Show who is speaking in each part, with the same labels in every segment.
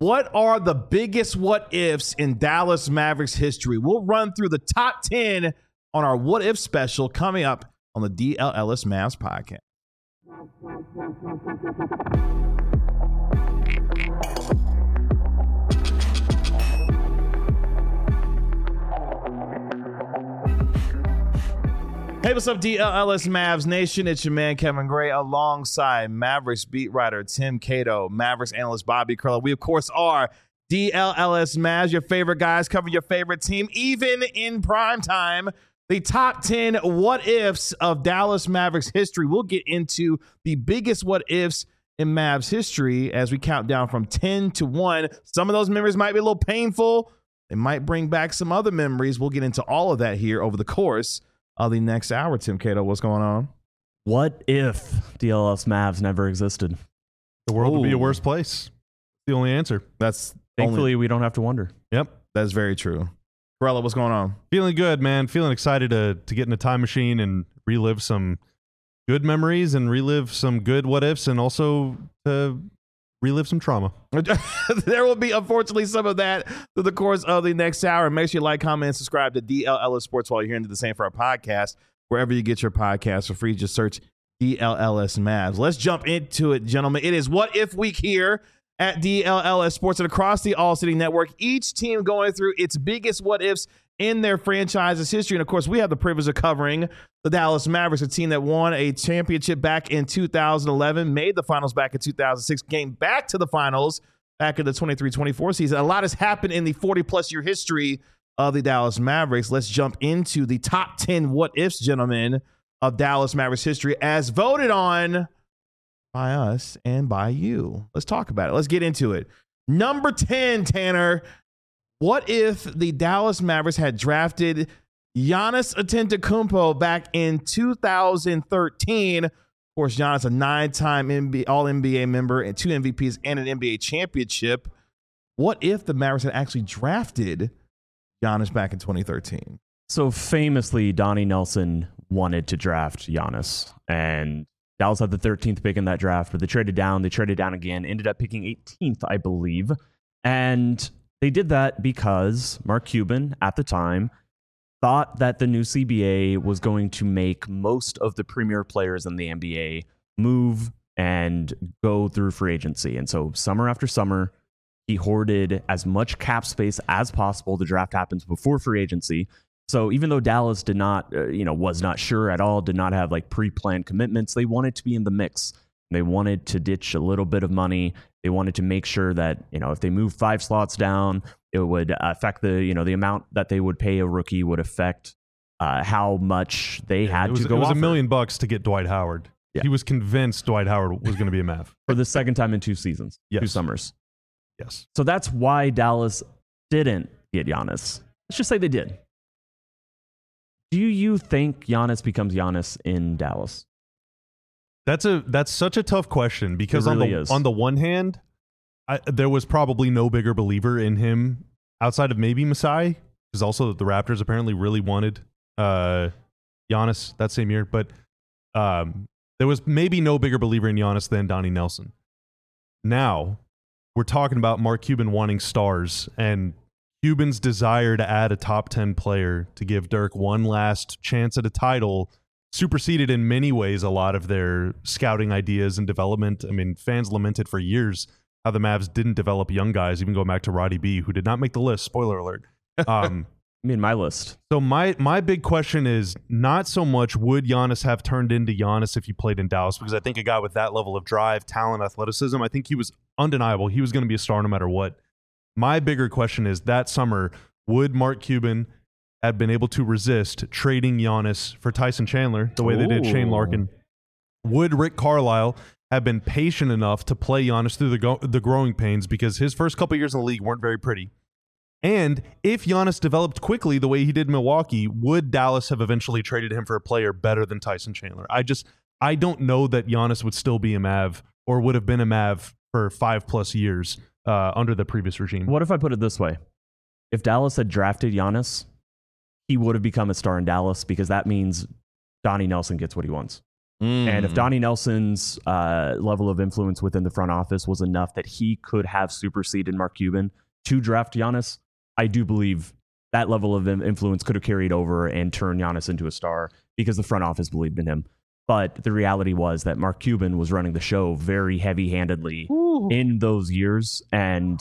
Speaker 1: What are the biggest what ifs in Dallas Mavericks history? We'll run through the top 10 on our what if special coming up on the DLLS Mavs podcast. Hey, what's up, DLLS Mavs Nation? It's your man, Kevin Gray, alongside Mavericks beat writer Tim Cato, Mavericks analyst Bobby Curler. We, of course, are DLLS Mavs, your favorite guys, covering your favorite team, even in prime time. The top 10 what-ifs of Dallas Mavericks history. We'll get into the biggest what-ifs in Mavs history as we count down from 10 to 1. Some of those memories might be a little painful. They might bring back some other memories. We'll get into all of that here over the course of the next hour. Tim Cato, what's going on?
Speaker 2: What if DLS Mavs never existed?
Speaker 3: The world would be a worse place. The only answer.
Speaker 2: Thankfully, we don't have to wonder.
Speaker 3: Yep.
Speaker 1: That's very true. Corella, what's going on?
Speaker 3: Feeling good, man. Feeling excited to get in a time machine and relive some good memories and relive some good what ifs and also to relive some trauma.
Speaker 1: There will be, unfortunately, some of that through the course of the next hour. Make sure you like, comment, and subscribe to DLLS Sports while you're here and do the same for our podcast. Wherever you get your podcast for free, just search DLLS Mavs. Let's jump into it, gentlemen. It is What If Week here at DLLS Sports and across the All City Network. Each team going through its biggest what ifs in their franchise's history. And of course, we have the privilege of covering the Dallas Mavericks, a team that won a championship back in 2011, made the finals back in 2006, came back to the finals back in the 23-24 season. A lot has happened in the 40-plus year history of the Dallas Mavericks. Let's jump into the top 10 what-ifs, gentlemen, of Dallas Mavericks history as voted on by us and by you. Let's talk about it. Let's get into it. Number 10, Tanner. What if the Dallas Mavericks had drafted Giannis Antetokounmpo back in 2013? Of course, Giannis, a 9-time All-NBA member and 2 MVPs and an NBA championship. What if the Mavericks had actually drafted Giannis back in 2013?
Speaker 2: So famously, Donnie Nelson wanted to draft Giannis, and Dallas had the 13th pick in that draft, but they traded down again, ended up picking 18th, I believe. And they did that because Mark Cuban, at the time, thought that the new CBA was going to make most of the premier players in the NBA move and go through free agency. And so summer after summer, he hoarded as much cap space as possible. The draft happens before free agency. So even though Dallas did not, was not sure at all, did not have like pre-planned commitments, they wanted to be in the mix. They wanted to ditch a little bit of money. They wanted to make sure that, if they moved 5 slots down, it would affect the amount that they would pay a rookie would affect how much they had to go.
Speaker 3: It was
Speaker 2: offer.
Speaker 3: $1 million to get Dwight Howard. Yeah. He was convinced Dwight Howard was going to be a Mav
Speaker 2: for the second time in 2 seasons,
Speaker 3: yes.
Speaker 2: 2 summers.
Speaker 3: Yes.
Speaker 2: So that's why Dallas didn't get Giannis. Let's just say they did. Do you think Giannis becomes Giannis in Dallas?
Speaker 3: That's such a tough question because
Speaker 2: on
Speaker 3: the one hand, there was probably no bigger believer in him outside of maybe Masai, because also the Raptors apparently really wanted Giannis that same year. But there was maybe no bigger believer in Giannis than Donnie Nelson. Now we're talking about Mark Cuban wanting stars and Cuban's desire to add a top 10 player to give Dirk one last chance at a title superseded in many ways a lot of their scouting ideas and development. I mean, fans lamented for years how the Mavs didn't develop young guys, even going back to Roddy B, who did not make the list. Spoiler alert.
Speaker 2: My list.
Speaker 3: So my big question is not so much would Giannis have turned into Giannis if he played in Dallas, because I think a guy with that level of drive, talent, athleticism, I think he was undeniable. He was going to be a star no matter what. My bigger question is that summer, would Mark Cuban have been able to resist trading Giannis for Tyson Chandler the way they did Shane Larkin? Would Rick Carlisle have been patient enough to play Giannis through the growing pains, because his first couple years in the league weren't very pretty? And if Giannis developed quickly the way he did in Milwaukee, would Dallas have eventually traded him for a player better than Tyson Chandler? I don't know that Giannis would still be a Mav or would have been a Mav for 5+ years under the previous regime.
Speaker 2: What if I put it this way? If Dallas had drafted Giannis, he would have become a star in Dallas, because that means Donnie Nelson gets what he wants. And if Donnie Nelson's level of influence within the front office was enough that he could have superseded Mark Cuban to draft Giannis, I do believe that level of influence could have carried over and turned Giannis into a star because the front office believed in him. But the reality was that Mark Cuban was running the show very heavy-handedly in those years. And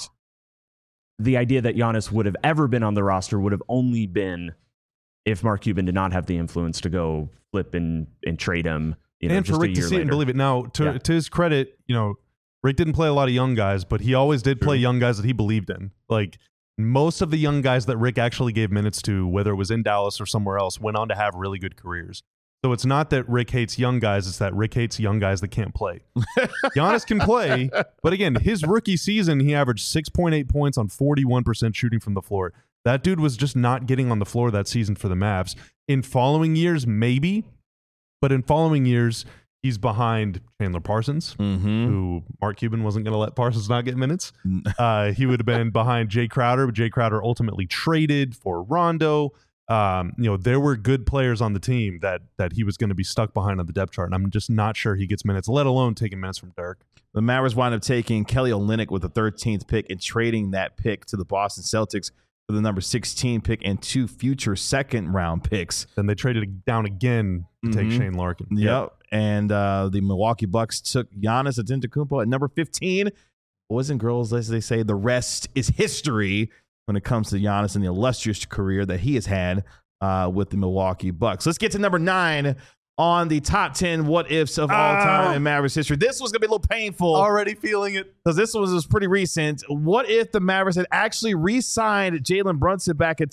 Speaker 2: the idea that Giannis would have ever been on the roster would have only been if Mark Cuban did not have the influence to go flip and trade him.
Speaker 3: And for Rick to see it and believe it. Now, to his credit, Rick didn't play a lot of young guys, but he always did play young guys that he believed in. Like, most of the young guys that Rick actually gave minutes to, whether it was in Dallas or somewhere else, went on to have really good careers. So it's not that Rick hates young guys, it's that Rick hates young guys that can't play. Giannis can play, but again, his rookie season, he averaged 6.8 points on 41% shooting from the floor. That dude was just not getting on the floor that season for the Mavs. In following years, maybe, but in following years, he's behind Chandler Parsons, who Mark Cuban wasn't going to let Parsons not get minutes. He would have been behind Jay Crowder, but Jay Crowder ultimately traded for Rondo. There were good players on the team that he was going to be stuck behind on the depth chart, and I'm just not sure he gets minutes, let alone taking minutes from Dirk.
Speaker 1: The Mavericks wind up taking Kelly Olynyk with the 13th pick and trading that pick to the Boston Celtics for the number 16 pick and 2 future second-round picks.
Speaker 3: Then they traded down again to take Shane Larkin.
Speaker 1: Yep. And the Milwaukee Bucks took Giannis Antetokounmpo at number 15. Boys and girls, as they say, the rest is history when it comes to Giannis and the illustrious career that he has had with the Milwaukee Bucks. Let's get to number 9 on the top 10 what-ifs of all time in Mavericks history. This was going to be a little painful.
Speaker 3: Already feeling it.
Speaker 1: Because this was pretty recent. What if the Mavericks had actually re-signed Jalen Brunson back in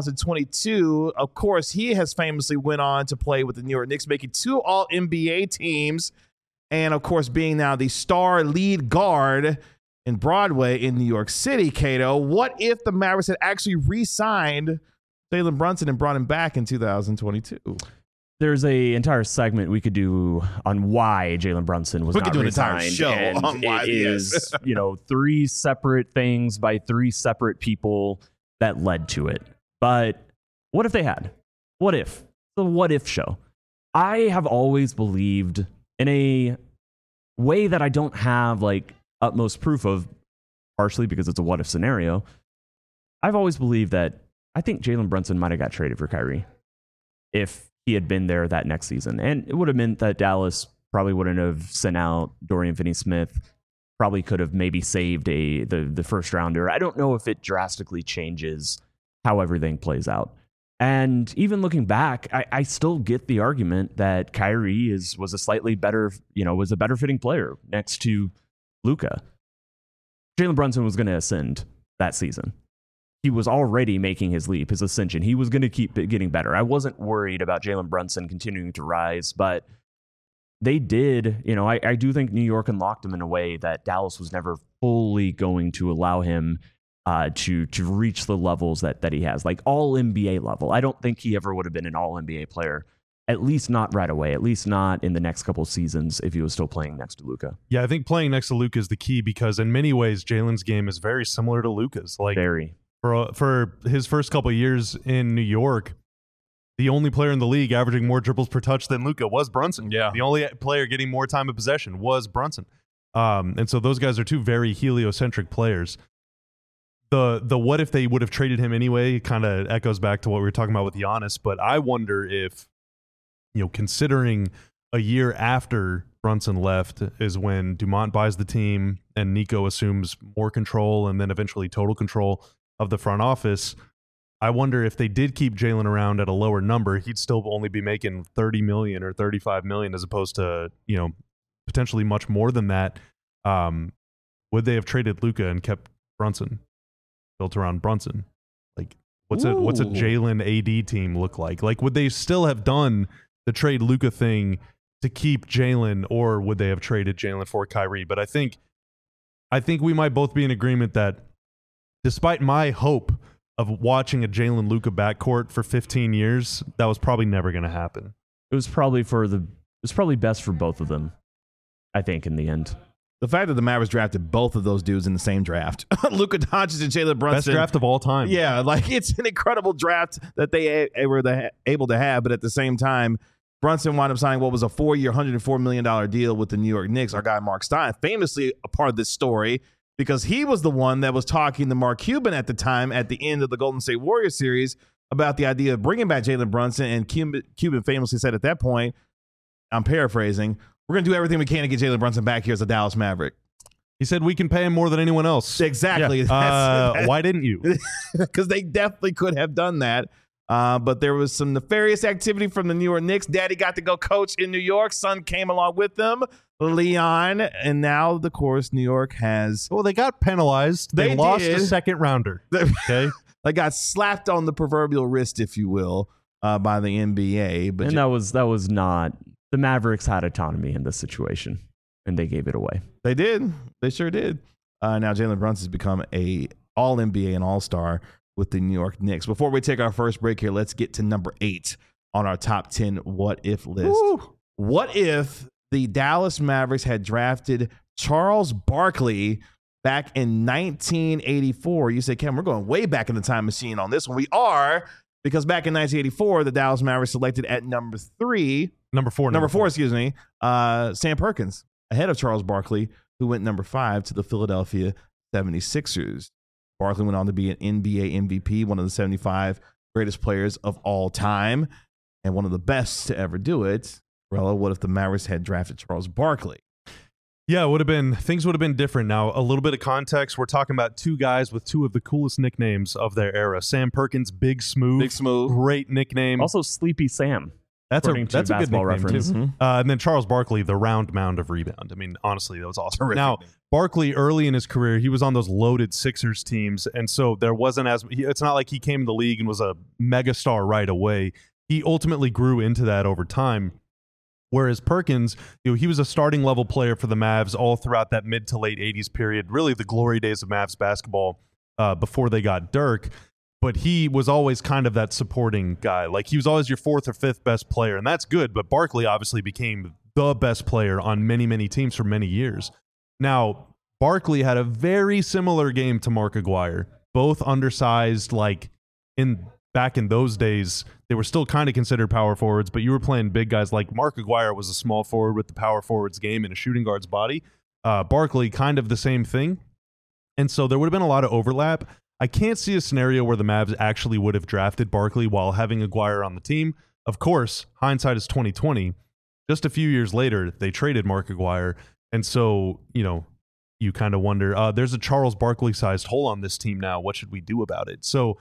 Speaker 1: 2022? Of course, he has famously went on to play with the New York Knicks, making 2 All-NBA teams. And, of course, being now the star lead guard in Broadway in New York City, Cato. What if the Mavericks had actually re-signed Jalen Brunson and brought him back in 2022?
Speaker 2: There's a entire segment we could do on why Jalen Brunson was not
Speaker 1: We could do an entire
Speaker 2: re-signed,
Speaker 1: show
Speaker 2: and
Speaker 1: on why
Speaker 2: it
Speaker 1: he
Speaker 2: is, 3 separate things by 3 separate people that led to it. But what if they had? What if? The what if show. I have always believed in a way that I don't have utmost proof of, partially because it's a what if scenario. I've always believed that I think Jalen Brunson might have got traded for Kyrie if he had been there that next season. And it would have meant that Dallas probably wouldn't have sent out Dorian Finney-Smith, probably could have maybe saved the first rounder. I don't know if it drastically changes how everything plays out. And even looking back, I still get the argument that Kyrie was a slightly better, was a better fitting player next to Luka. Jalen Brunson was going to ascend that season. He was already making his leap, his ascension. He was going to keep getting better. I wasn't worried about Jalen Brunson continuing to rise, but they did. I do think New York unlocked him in a way that Dallas was never fully going to allow him to reach the levels that he has, like all NBA level. I don't think he ever would have been an all NBA player, at least not right away, at least not in the next couple of seasons if he was still playing next to Luka.
Speaker 3: Yeah, I think playing next to Luka is the key because in many ways, Jalen's game is very similar to Luka's.
Speaker 2: Very.
Speaker 3: For his first couple of years in New York, the only player in the league averaging more dribbles per touch than Luka was Brunson.
Speaker 1: Yeah.
Speaker 3: The only player getting more time of possession was Brunson. And so those guys are 2 very heliocentric players. The what if they would have traded him anyway kind of echoes back to what we were talking about with Giannis, but I wonder if, considering a year after Brunson left is when Dumont buys the team and Nico assumes more control and then eventually total control of the front office. I wonder if they did keep Jalen around at a lower number, he'd still only be making $30 million or $35 million as opposed to, potentially much more than that. Would they have traded Luka and kept Brunson, built around Brunson? What's a Jalen AD team look like? Would they still have done the trade Luka thing to keep Jalen, or would they have traded Jalen for Kyrie? But I think we might both be in agreement that despite my hope of watching a Jalen Luka backcourt for 15 years, that was probably never going to happen.
Speaker 2: It was probably best for both of them, I think, in the end.
Speaker 1: The fact that the Mavericks drafted both of those dudes in the same draft, Luka Doncic and Jalen Brunson.
Speaker 3: Best draft of all time.
Speaker 1: Yeah, it's an incredible draft that they were able to have, but at the same time, Brunson wound up signing what was a 4-year, $104 million deal with the New York Knicks. Our guy Mark Stein, famously a part of this story because he was the one that was talking to Mark Cuban at the time at the end of the Golden State Warriors series about the idea of bringing back Jalen Brunson. And Cuban famously said at that point, I'm paraphrasing, we're going to do everything we can to get Jalen Brunson back here as a Dallas Maverick.
Speaker 3: He said we can pay him more than anyone else.
Speaker 1: Exactly.
Speaker 3: Yeah. Why didn't you?
Speaker 1: Because they definitely could have done that. But there was some nefarious activity from the New York Knicks. Daddy got to go coach in New York. Son came along with them, Leon. And now, of course, New York has...
Speaker 3: Well, they got penalized. They lost a second rounder. Okay.
Speaker 1: They got slapped on the proverbial wrist, if you will, by the NBA. But
Speaker 2: and that was not... The Mavericks had autonomy in this situation, and they gave it away.
Speaker 1: They did. They sure did. Now Jalen Brunson has become a All-NBA and All-Star with the New York Knicks. Before we take our first break here, let's get to number 8 on our top 10 what-if list.
Speaker 3: Woo.
Speaker 1: What if the Dallas Mavericks had drafted Charles Barkley back in 1984? You say, Cam, we're going way back in the time machine on this one. We are, because back in 1984, the Dallas Mavericks selected at number 4, excuse me, Sam Perkins, ahead of Charles Barkley, who went number 5 to the Philadelphia 76ers. Barkley went on to be an NBA MVP, one of the 75 greatest players of all time, and one of the best to ever do it. Rella, what if the Mavericks had drafted Charles Barkley?
Speaker 3: Yeah, things would have been different. Now, a little bit of context. We're talking about two guys with two of the coolest nicknames of their era. Sam Perkins, Big Smooth. Great nickname.
Speaker 2: Also, Sleepy Sam.
Speaker 3: That's a good
Speaker 2: basketball
Speaker 3: reference.
Speaker 2: Mm-hmm.
Speaker 3: And then Charles Barkley, the round mound of rebound. I mean, honestly, that was awesome.
Speaker 1: Terrific.
Speaker 3: Now, Barkley, early in his career, he was on those loaded Sixers teams, and so there wasn't it's not like he came in the league and was a megastar right away. He ultimately grew into that over time. Whereas Perkins, he was a starting level player for the Mavs all throughout that mid to late 80s period, really the glory days of Mavs basketball before they got Dirk. But he was always kind of that supporting guy. Like, he was always your 4th or 5th best player, and that's good. But Barkley obviously became the best player on many, many teams for many years. Now, Barkley had a very similar game to Mark Aguirre, both undersized. Like, back in those days, they were still kind of considered power forwards, but you were playing big guys. Like Mark Aguirre was a small forward with the power forwards game and a shooting guard's body. Barkley, kind of the same thing. And so there would have been a lot of overlap. I can't see a scenario where the Mavs actually would have drafted Barkley while having Aguirre on the team. Of course, hindsight is 2020. Just a few years later, they traded Mark Aguirre. And so, you kind of wonder, there's a Charles Barkley-sized hole on this team now. What should we do about it? So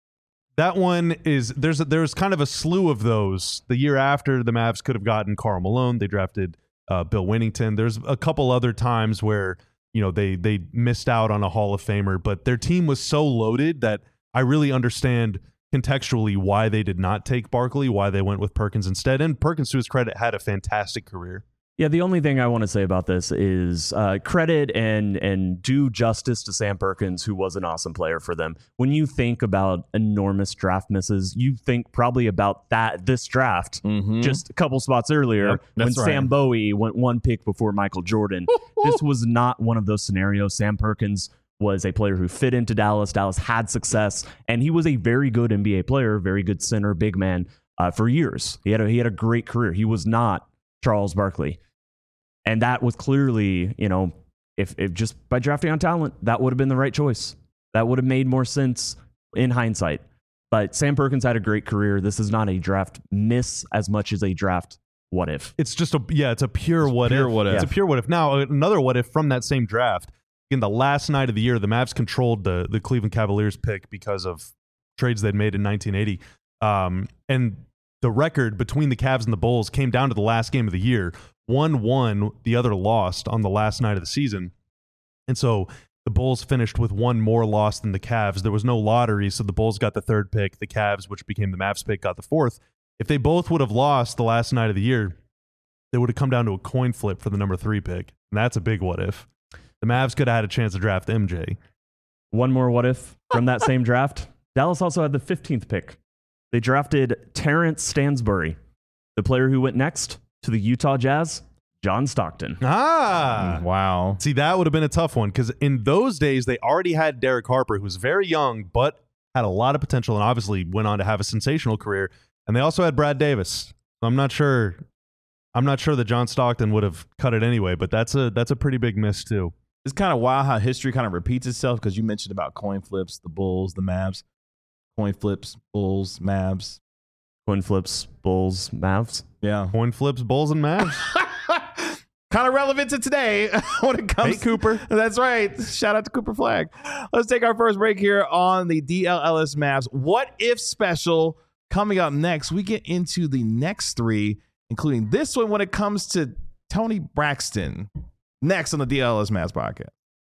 Speaker 3: that one is, there's kind of a slew of those. The year after, the Mavs could have gotten Karl Malone. They drafted Bill Winnington. There's a couple other times where they missed out on a Hall of Famer, but their team was so loaded that I really understand contextually why they did not take Barkley, why they went with Perkins instead. And Perkins, to his credit, had a fantastic career.
Speaker 2: Yeah, the only thing I want to say about this is credit and do justice to Sam Perkins, who was an awesome player for them. When you think about enormous draft misses, you think probably about this draft just a couple spots earlier when Sam Bowie went 1 pick before Michael Jordan. This was not one of those scenarios. Sam Perkins was a player who fit into Dallas. Dallas had success, and he was a very good NBA player, very good center, big man for years. He had a great career. He was not Charles Barkley. And that was clearly, if just by drafting on talent, that would have been the right choice. That would have made more sense in hindsight. But Sam Perkins had a great career. This is not a draft miss as much as a draft what if.
Speaker 3: It's just it's a pure what if. It's a pure what if. Now, another what if from that same draft. In the last night of the year, the Mavs controlled the Cleveland Cavaliers pick because of trades they'd made in 1980. And the record between the Cavs and the Bulls came down to the last game of the year. One won, the other lost on the last night of the season. And so the Bulls finished with one more loss than the Cavs. There was no lottery, so the Bulls got the 3rd pick. The Cavs, which became the Mavs pick, got the 4th. If they both would have lost the last night of the year, they would have come down to a coin flip for the number 3 pick. And that's a big what if. The Mavs could have had a chance to draft MJ.
Speaker 2: One more what if from that same draft. Dallas also had the 15th pick. They drafted Terrence Stansbury, the player who went next to the Utah Jazz, John Stockton.
Speaker 1: Wow.
Speaker 3: See, that would have been a tough one because in those days, they already had Derek Harper, who was very young, but had a lot of potential and obviously went on to have a sensational career. And they also had Brad Davis. I'm not sure that John Stockton would have cut it anyway, but that's a pretty big miss too.
Speaker 1: It's kind of wild how history kind of repeats itself because you mentioned about coin flips, the Bulls, the Mavs. Coin flips, Bulls, Mavs.
Speaker 2: Coin flips, Bulls, Mavs.
Speaker 1: Yeah.
Speaker 3: Coin flips, Bulls, and Mavs.
Speaker 1: Kind of relevant to today when it comes.
Speaker 3: Hey, Cooper.
Speaker 1: That's right. Shout out to Cooper Flag. Let's take our first break here on the DLLS Mavs What If special. Coming up next, we get into the next three, including this one when it comes to Tony Braxton. Next on the DLLS Mavs podcast.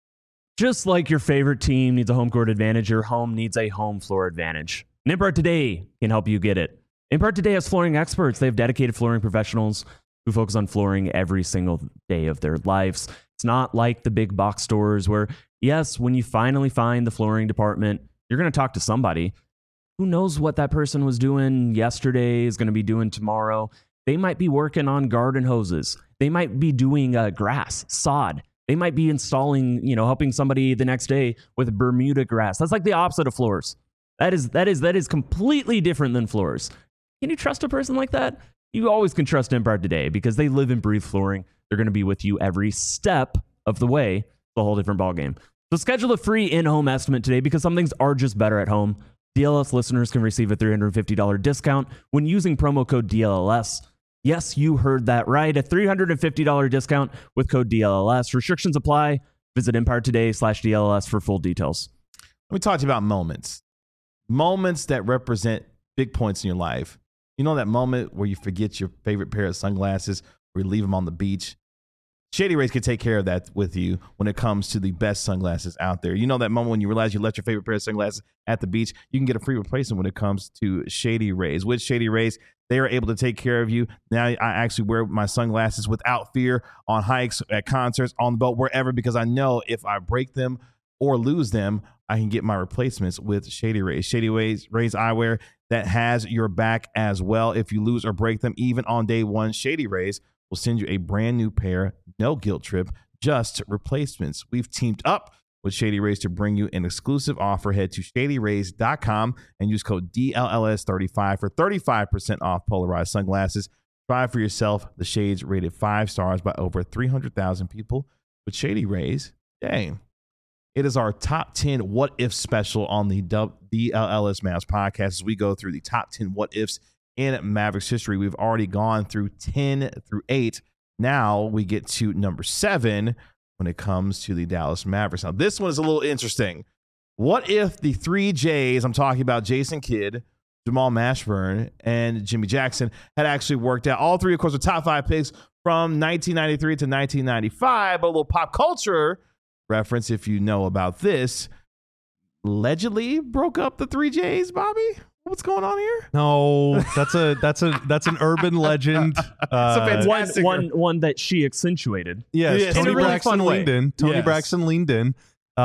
Speaker 2: Just like your favorite team needs a home court advantage, your home needs a home floor advantage. And Impart Today can help you get it. Impart Today has flooring experts. They have dedicated flooring professionals who focus on flooring every single day of their lives. It's not like the big box stores where, yes, when you finally find the flooring department, you're going to talk to somebody. Who knows what that person was doing yesterday is going to be doing tomorrow. They might be working on garden hoses. They might be doing grass, sod. They might be installing, helping somebody the next day with Bermuda grass. That's like the opposite of floors. That is completely different than floors. Can you trust a person like that? You always can trust Impart Today because they live and breathe flooring. They're going to be with you every step of the way. It's a whole different ballgame. So schedule a free in-home estimate today because some things are just better at home. DLS listeners can receive a $350 discount when using promo code DLLS. Yes, you heard that right. A $350 discount with code DLLS. Restrictions apply. Visit EmpireToday.com/DLLS for full details.
Speaker 1: Let me talk to you about moments. Moments that represent big points in your life. You know that moment where you forget your favorite pair of sunglasses or you leave them on the beach? Shady Rays can take care of that with you when it comes to the best sunglasses out there. You know that moment when you realize you left your favorite pair of sunglasses at the beach? You can get a free replacement when it comes to Shady Rays. With Shady Rays, they are able to take care of you. Now I actually wear my sunglasses without fear on hikes, at concerts, on the boat, wherever, because I know if I break them or lose them, I can get my replacements with Shady Rays. Shady Rays eyewear that has your back as well. If you lose or break them, even on day one, Shady Rays will send you a brand new pair, no guilt trip, just replacements. We've teamed up with Shady Rays to bring you an exclusive offer. Head to shadyrays.com and use code DLLS35 for 35% off polarized sunglasses. Try for yourself the shades rated 5 stars by over 300,000 people with Shady Rays. Dang. It is our top 10 what if special on the DLLS Mavs podcast as we go through the top 10 what ifs in Mavericks history. We've already gone through 10 through 8. Now we get to number 7 when it comes to the Dallas Mavericks. Now, this one is a little interesting. What if the 3 J's, I'm talking about Jason Kidd, Jamal Mashburn, and Jimmy Jackson, had actually worked out? All three, of course, were top 5 picks from 1993 to 1995. But a little pop culture reference, if you know about this, allegedly broke up the 3 J's, Bobby. What's going on here?
Speaker 3: No, that's an urban legend.
Speaker 2: One that she accentuated.
Speaker 3: Yes, Tony Braxton leaned in. Tony Braxton leaned in.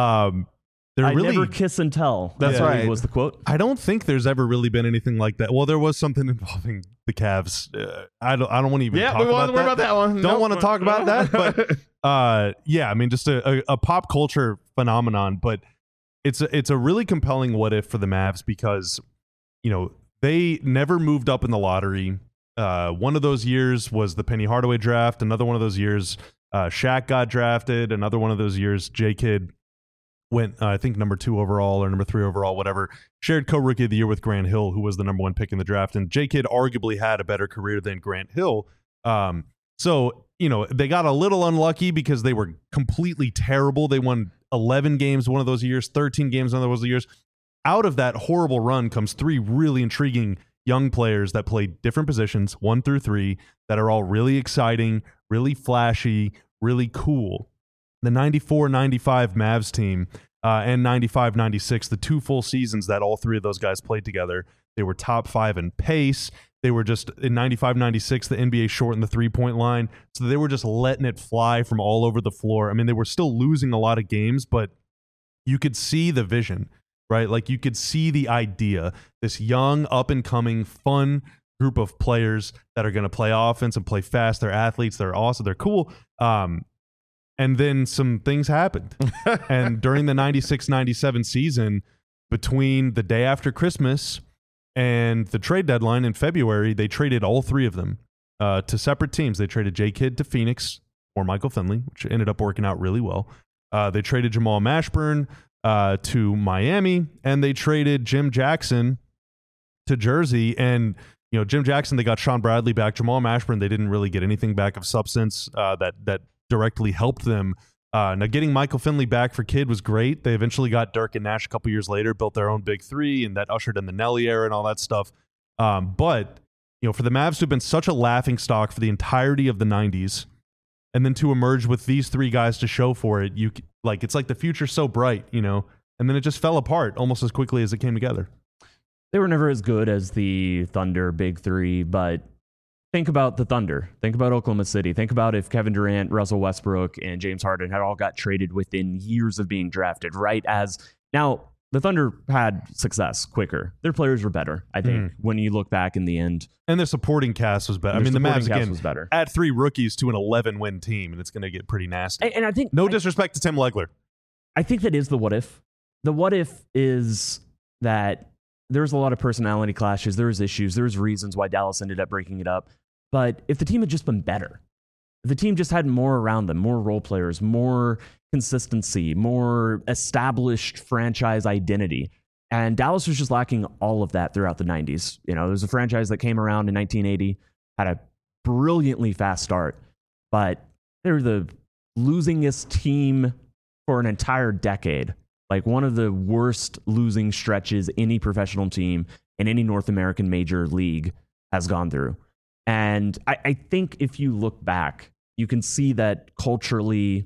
Speaker 2: Never kiss and tell.
Speaker 1: That's right.
Speaker 2: Was the quote.
Speaker 3: I don't think there's ever really been anything like that. Well, there was something involving the Cavs. I don't want to even talk about that one. Don't want to talk about that. But I mean, just a pop culture phenomenon. But it's a really compelling what if for the Mavs because they never moved up in the lottery. One of those years was the Penny Hardaway draft. Another one of those years, Shaq got drafted. Another one of those years, J-Kidd went, I think, number 2 overall or number 3 overall, whatever. Shared co-rookie of the year with Grant Hill, who was the number 1 pick in the draft. And J-Kidd arguably had a better career than Grant Hill. So, they got a little unlucky because they were completely terrible. They won 11 games one of those years, 13 games one of those years. Out of that horrible run comes 3 really intriguing young players that play different positions, 1 through 3, that are all really exciting, really flashy, really cool. The 94-95 Mavs team and 95-96, the 2 full seasons that all 3 of those guys played together, they were top 5 in pace. They were just, in 95-96, the NBA shortened the 3-point line, so they were just letting it fly from all over the floor. I mean, they were still losing a lot of games, but you could see the vision. Right? Like you could see the idea, this young, up-and-coming, fun group of players that are going to play offense and play fast. They're athletes. They're awesome. They're cool. And then some things happened. And during the 96-97 season, between the day after Christmas And the trade deadline in February, they traded all three of them to separate teams. They traded J. Kidd to Phoenix or Michael Finley, which ended up working out really well. They traded Jamal Mashburn to Miami, and they traded Jim Jackson to Jersey. And Jim Jackson, they got Sean Bradley back. Jamal Mashburn, they didn't really get anything back of substance that directly helped them. Now, getting Michael Finley back for Kidd was great. They eventually got Dirk and Nash a couple years later, built their own big three, and that ushered in the Nelly era and all that stuff. But for the Mavs to have been such a laughingstock for the entirety of the 90s, and then to emerge with these three guys to show for it, it's like the future's so bright, and then it just fell apart almost as quickly as it came together.
Speaker 2: They were never as good as the Thunder big three, but think about the Thunder. Think about Oklahoma City. Think about if Kevin Durant, Russell Westbrook, and James Harden had all got traded within years of being drafted, right? Now, the Thunder had success quicker. Their players were better, I think, when you look back in the end.
Speaker 3: And their supporting cast was better. The Mavs, again, was better. Add 3 rookies to an 11-win team, and it's going to get pretty nasty.
Speaker 2: And I think...
Speaker 3: No disrespect to Tim Legler.
Speaker 2: I think that is the what if. The what if is that there's a lot of personality clashes. There's issues. There's reasons why Dallas ended up breaking it up. But if the team had just been better, if the team just had more around them, more role players, more consistency, more established franchise identity, and Dallas was just lacking all of that throughout the 90s. There was a franchise that came around in 1980, had a brilliantly fast start, but they were the losingest team for an entire decade. Like one of the worst losing stretches any professional team in any North American major league has gone through. And I think if you look back, you can see that culturally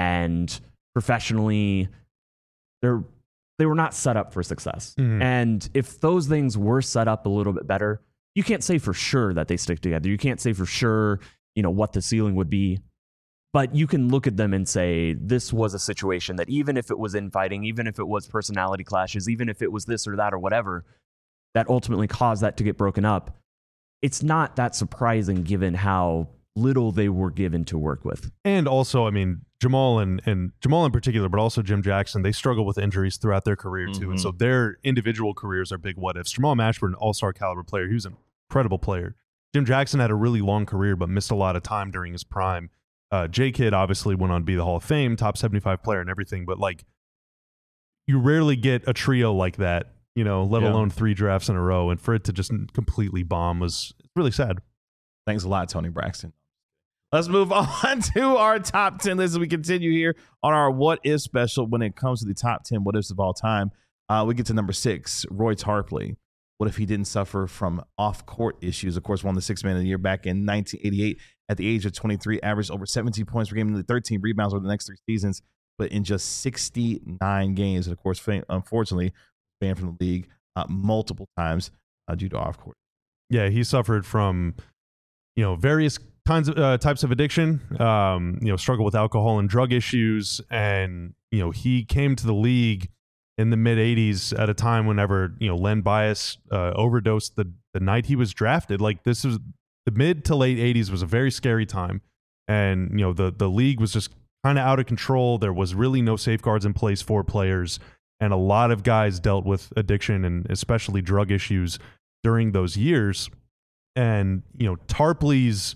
Speaker 2: and professionally, they were not set up for success. And if those things were set up a little bit better, you can't say for sure that they stick together. You can't say for sure, what the ceiling would be. But you can look at them and say, this was a situation that even if it was infighting, even if it was personality clashes, even if it was this or that or whatever, that ultimately caused that to get broken up. It's not that surprising given how little they were given to work with.
Speaker 3: And also, Jamal and Jamal in particular, but also Jim Jackson, they struggle with injuries throughout their career too. And so their individual careers are big what ifs. Jamal Mashburn, all-star caliber player. He was an incredible player. Jim Jackson had a really long career, but missed a lot of time during his prime. J. Kidd obviously went on to be the Hall of Fame, top 75 player and everything. But you rarely get a trio like that, let alone 3 drafts in a row. And for it to just completely bomb was really sad.
Speaker 1: Thanks a lot, Tony Braxton. Let's move on to our top 10 list as we continue here on our What If special when it comes to the top 10 what ifs of all time. We get to number 6, Roy Tarpley. What if he didn't suffer from off-court issues? Of course, won the Sixth Man of the Year back in 1988 at the age of 23, averaged over 17 points per game and 13 rebounds over the next 3 seasons, but in just 69 games. And of course, unfortunately, banned from the league multiple times due to off-court.
Speaker 3: Yeah, he suffered from, various types of addiction, struggle with alcohol and drug issues. And, he came to the league in the mid 80s at a time whenever, Len Bias overdosed the night he was drafted. This was the mid to late 80s was a very scary time. And, the league was just kind of out of control. There was really no safeguards in place for players. And a lot of guys dealt with addiction and especially drug issues during those years. And, Tarpley's,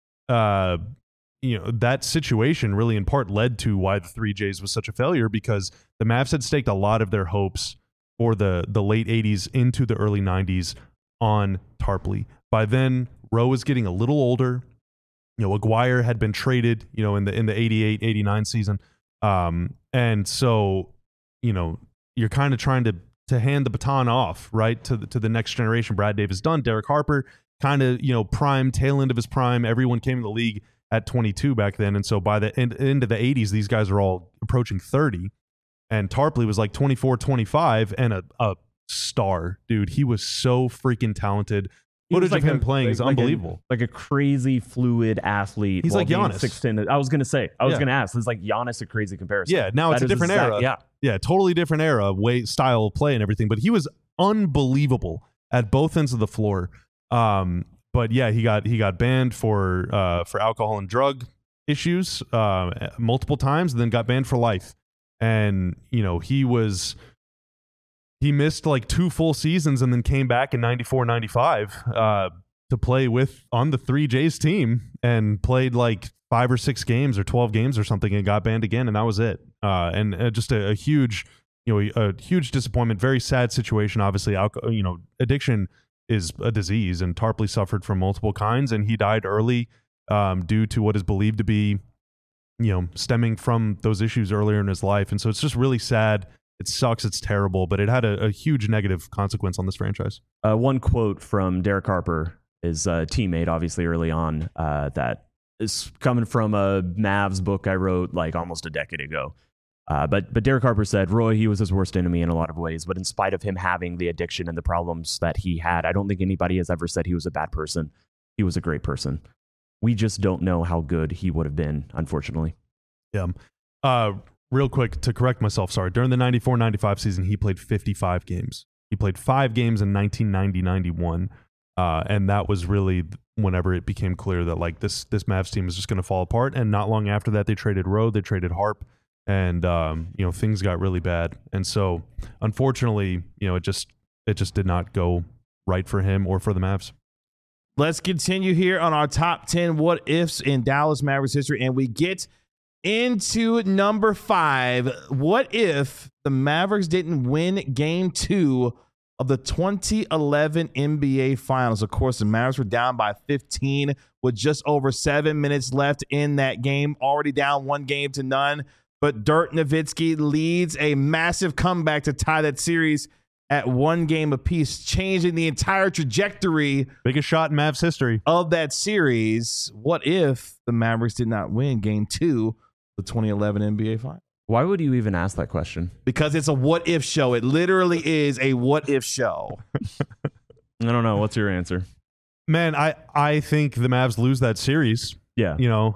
Speaker 3: that situation really in part led to why the 3Js was such a failure, because the Mavs had staked a lot of their hopes for the late 80s into the early 90s on Tarpley. By then, Rowe was getting a little older. Aguirre had been traded, in the 88-89 season. And so, you're kind of trying to hand the baton off, right, to the next generation. Brad Davis done. Derek Harper, kind of, prime, tail end of his prime. Everyone came in the league at 22 back then. And so by the end of the 80s, these guys are all approaching 30. And Tarpley was 24, 25 and a star, dude. He was so freaking talented. Footage of him playing is unbelievable.
Speaker 2: Like a crazy fluid athlete.
Speaker 3: He's like Giannis.
Speaker 2: 6'10". I was going to ask, it's like Giannis a crazy comparison.
Speaker 3: Yeah, now it's a different era. Yeah, totally different era, style of play and everything. But he was unbelievable at both ends of the floor. But yeah, he got banned for alcohol and drug issues multiple times, and then got banned for life. And he was he missed like 2 full seasons and then came back in 94, 95 to play on the 3J's team and played like 5 or 6 games or 12 games or something and got banned again, and that was it. And just a huge, a huge disappointment. Very sad situation. Obviously, addiction is a disease, and Tarpley suffered from multiple kinds, and he died early due to what is believed to be, stemming from those issues earlier in his life. And so it's just really sad. It sucks. It's terrible, but it had a huge negative consequence on this franchise.
Speaker 2: One quote from Derek Harper, his teammate, obviously early on, that is coming from a Mavs book I wrote like almost a decade ago. But Derek Harper said, Roy, he was his worst enemy in a lot of ways, but in spite of him having the addiction and the problems that he had, I don't think anybody has ever said he was a bad person. He was a great person. We just don't know how good he would have been, unfortunately.
Speaker 3: Yeah. Real quick, to correct myself, sorry. During the 94-95 season, he played 55 games. He played 5 games in 1990-91, and that was really whenever it became clear that like this Mavs team is just going to fall apart. And not long after that, they traded Rowe, they traded Harp, and things got really bad. And so, unfortunately, it just did not go right for him or for the Mavs.
Speaker 1: Let's continue here on our top 10 what ifs in Dallas Mavericks history, and we get into number 5. What if the Mavericks didn't win game 2 of the 2011 NBA Finals? Of course, the Mavericks were down by 15 with just over 7 minutes left in that game, already down 1-0. But Dirk Nowitzki leads a massive comeback to tie that series at 1 game apiece, changing the entire trajectory.
Speaker 3: Biggest shot in Mavs history
Speaker 1: of that series. What if the Mavericks did not win game 2 of the 2011 NBA Finals?
Speaker 2: Why would you even ask that question?
Speaker 1: Because it's a what if show. It literally is a what if show.
Speaker 2: I don't know. What's your answer?
Speaker 3: Man, I think the Mavs lose that series.
Speaker 2: Yeah.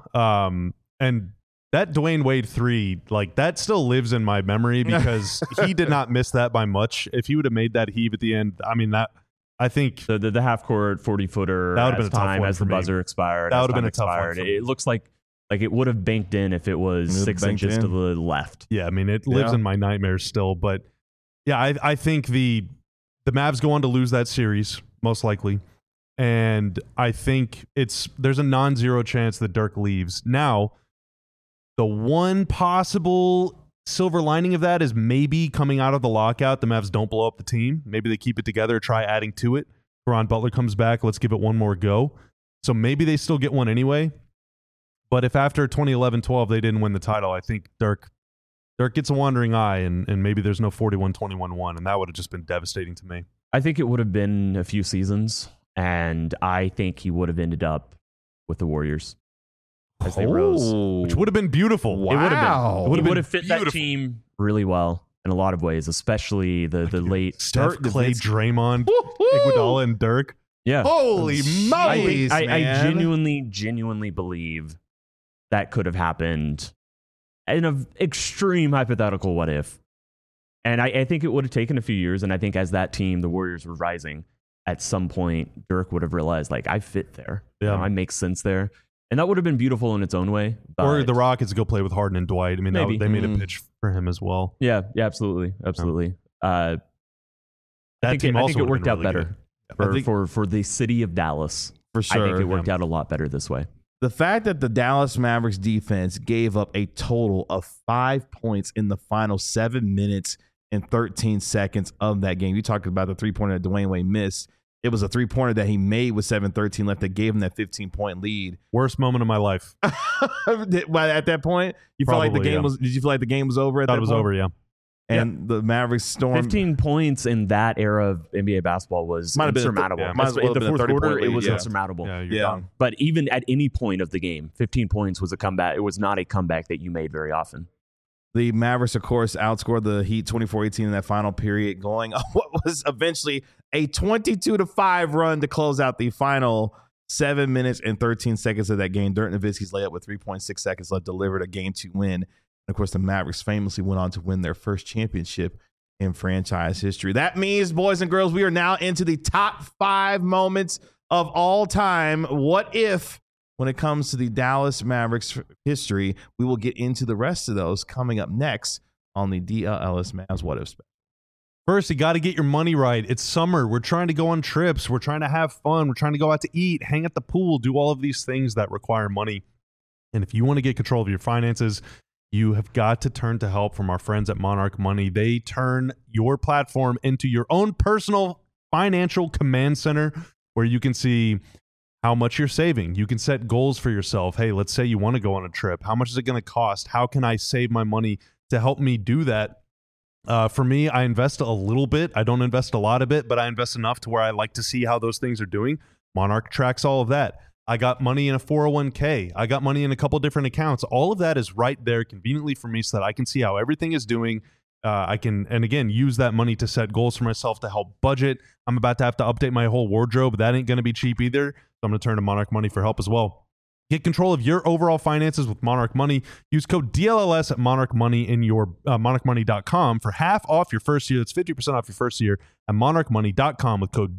Speaker 3: And that Dwayne Wade 3, like that still lives in my memory because he did not miss that by much. If he would have made that heave at the end, I mean, that I think
Speaker 2: the half court 40-footer
Speaker 3: that would have been a tough
Speaker 2: time
Speaker 3: one
Speaker 2: as the buzzer expired.
Speaker 3: That would have been a tough one.
Speaker 2: It looks like it would have banked in if it was 6 inches to the left.
Speaker 3: Yeah, I mean, it lives in my nightmares still. But yeah, I think the Mavs go on to lose that series most likely, and I think there's a non-zero chance that Dirk leaves. Now, the one possible silver lining of that is maybe coming out of the lockout, the Mavs don't blow up the team. Maybe they keep it together, try adding to it. Caron Butler comes back. Let's give it one more go. So maybe they still get one anyway. But if after 2011-12 they didn't win the title, I think Dirk gets a wandering eye, and maybe there's no 41-21-1, and that would have just been devastating to me.
Speaker 2: I think it would have been a few seasons, and I think he would have ended up with the Warriors. As they rose,
Speaker 3: which would have been beautiful.
Speaker 1: Wow.
Speaker 2: It would have been. It would have fit
Speaker 3: beautiful.
Speaker 2: that team really well in a lot of ways, especially the late
Speaker 3: Steph, Clay, Draymond, Iguodala, and Dirk.
Speaker 2: Yeah.
Speaker 1: Holy moly!
Speaker 2: I genuinely believe that could have happened in an extreme hypothetical what if. And I think it would have taken a few years, and I think as that team, the Warriors were rising, at some point, Dirk would have realized, like, I fit there.
Speaker 3: Yeah.
Speaker 2: I make sense there. And that would have been beautiful in its own way. But
Speaker 3: or the Rockets go play with Harden and Dwight. I mean, they made a pitch for him as well.
Speaker 2: Yeah, absolutely.
Speaker 3: That
Speaker 2: I
Speaker 3: team
Speaker 2: think it worked out
Speaker 3: really
Speaker 2: better for the city of Dallas.
Speaker 1: For sure.
Speaker 2: I think it worked out a lot better this way.
Speaker 1: The fact that the Dallas Mavericks defense gave up a total of 5 points in the final 7 minutes and 13 seconds of that game. You talked about the three-pointer that Dwayne Wade missed. It was a three-pointer that he made with 7:13 left that gave him that 15-point lead.
Speaker 3: Worst moment of my life.
Speaker 1: At that point, you felt like the game was. Did you feel like the game was over?
Speaker 3: It was over. Yeah.
Speaker 1: And the Mavericks stormed.
Speaker 2: 15 points in that era of NBA basketball was insurmountable.
Speaker 1: Might as well
Speaker 2: in the
Speaker 1: have been
Speaker 2: fourth
Speaker 1: a 30-point
Speaker 2: quarter,
Speaker 1: lead,
Speaker 2: it was
Speaker 1: yeah.
Speaker 2: insurmountable.
Speaker 3: Yeah, you're done.
Speaker 2: But even at any point of the game, 15 points was a comeback. It was not a comeback that you made very often.
Speaker 1: The Mavericks, of course, outscored the Heat 24-18 in that final period, going on what was eventually a 22-5 run to close out the final 7 minutes and 13 seconds of that game. Dirk Nowitzki's layup with 3.6 seconds left delivered a Game 2 win. And, of course, the Mavericks famously went on to win their first championship in franchise history. That means, boys and girls, we are now into the top 5 moments of all time. What if? When it comes to the Dallas Mavericks history, we will get into the rest of those coming up next on the DL Ellis Mavs What If Special.
Speaker 3: First, you got to get your money right. It's summer. We're trying to go on trips. We're trying to have fun. We're trying to go out to eat, hang at the pool, do all of these things that require money. And if you want to get control of your finances, you have got to turn to help from our friends at Monarch Money. They turn your platform into your own personal financial command center where you can see how much you're saving. You can set goals for yourself. Hey, let's say you want to go on a trip. How much is it going to cost? How can I save my money to help me do that? For me, I invest a little bit. I don't invest a lot of it, but I invest enough to where I like to see how those things are doing. Monarch tracks all of that. I got money in a 401k. I got money in a couple different accounts. All of that is right there conveniently for me so that I can see how everything is doing. I can, and again, use that money to set goals for myself to help budget. I'm about to have to update my whole wardrobe. That ain't going to be cheap either. So I'm going to turn to Monarch Money for help as well. Get control of your overall finances with Monarch Money. Use code DLLS at Monarch Money in your monarchmoney.com for half off your first year. That's 50% off your first year at monarchmoney.com with code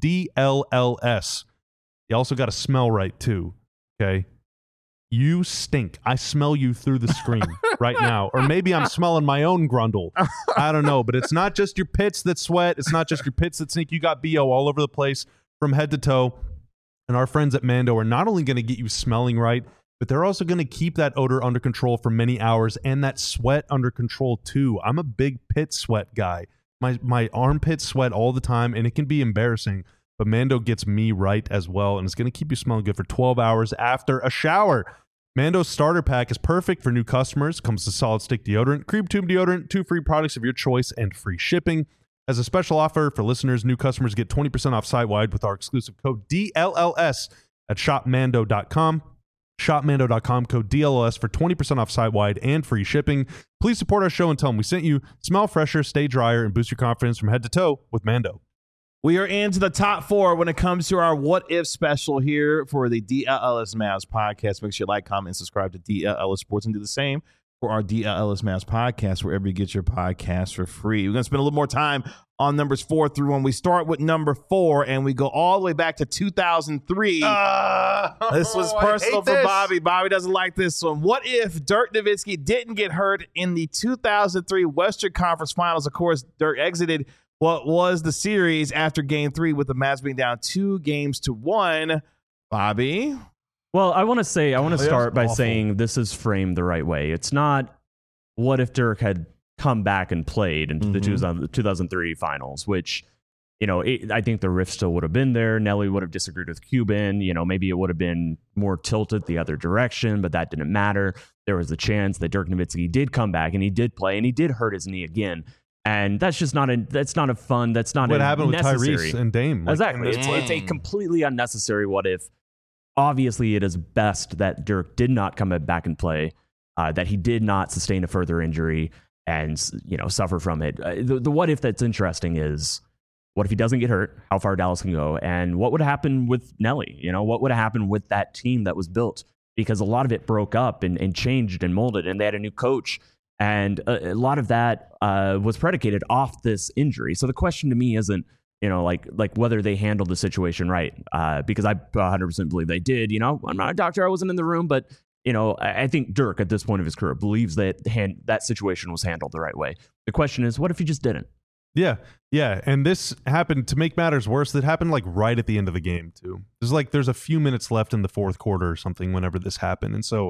Speaker 3: DLLS. You also got to smell right too, okay? You stink. I smell you through the screen right now. Or maybe I'm smelling my own grundle. I don't know, but it's not just your pits that sweat. It's not just your pits that stink. You got BO all over the place from head to toe. And our friends at Mando are not only going to get you smelling right, but they're also going to keep that odor under control for many hours and that sweat under control too. I'm a big pit sweat guy. My armpits sweat all the time, and it can be embarrassing. But Mando gets me right as well, and it's going to keep you smelling good for 12 hours after a shower. Mando's starter pack is perfect for new customers. Comes with solid stick deodorant, cream tube deodorant, 2 free products of your choice, and free shipping. As a special offer for listeners, new customers get 20% off site-wide with our exclusive code DLLS at shopmando.com. Shopmando.com, code DLLS for 20% off site-wide and free shipping. Please support our show and tell them we sent you. Smell fresher, stay drier, and boost your confidence from head to toe with Mando.
Speaker 1: We are into the top 4 when it comes to our What If special here for the DLLS Mavs podcast. Make sure you like, comment, and subscribe to DLLS Sports and do the same for our DLLS Mavs podcast, wherever you get your podcasts for free. We're going to spend a little more time on numbers 4 through 1. We start with number 4, and we go all the way back to 2003. This was personal for Bobby. Bobby doesn't like this one. What if Dirk Nowitzki didn't get hurt in the 2003 Western Conference Finals? Of course, Dirk exited what was the series after Game 3 with the Mavs being down 2-1. Bobby?
Speaker 2: Well, I want to start by saying this is framed the right way. It's not what if Dirk had come back and played into the 2003 finals, which, I think the rift still would have been there. Nelly would have disagreed with Cuban. Maybe it would have been more tilted the other direction, but that didn't matter. There was a chance that Dirk Nowitzki did come back and he did play and he did hurt his knee again. And that's just not a fun. That's not
Speaker 3: what happened with
Speaker 2: necessary.
Speaker 3: Tyrese and Dame.
Speaker 2: Exactly. It's a completely unnecessary what if. Obviously, it is best that Dirk did not come back and play, that he did not sustain a further injury and suffer from it. The what if that's interesting is, what if he doesn't get hurt? How far Dallas can go? And what would happen with Nelly? What would happen with that team that was built? Because a lot of it broke up and changed and molded, and they had a new coach. And a lot of that was predicated off this injury. So the question to me isn't, like whether they handled the situation right, because I 100% believe they did. I'm not a doctor. I wasn't in the room, but I think Dirk at this point of his career believes that that situation was handled the right way. The question is, what if he just didn't?
Speaker 3: Yeah. And this happened, to make matters worse, it happened like right at the end of the game too. There's a few minutes left in the fourth quarter or something whenever this happened, and so.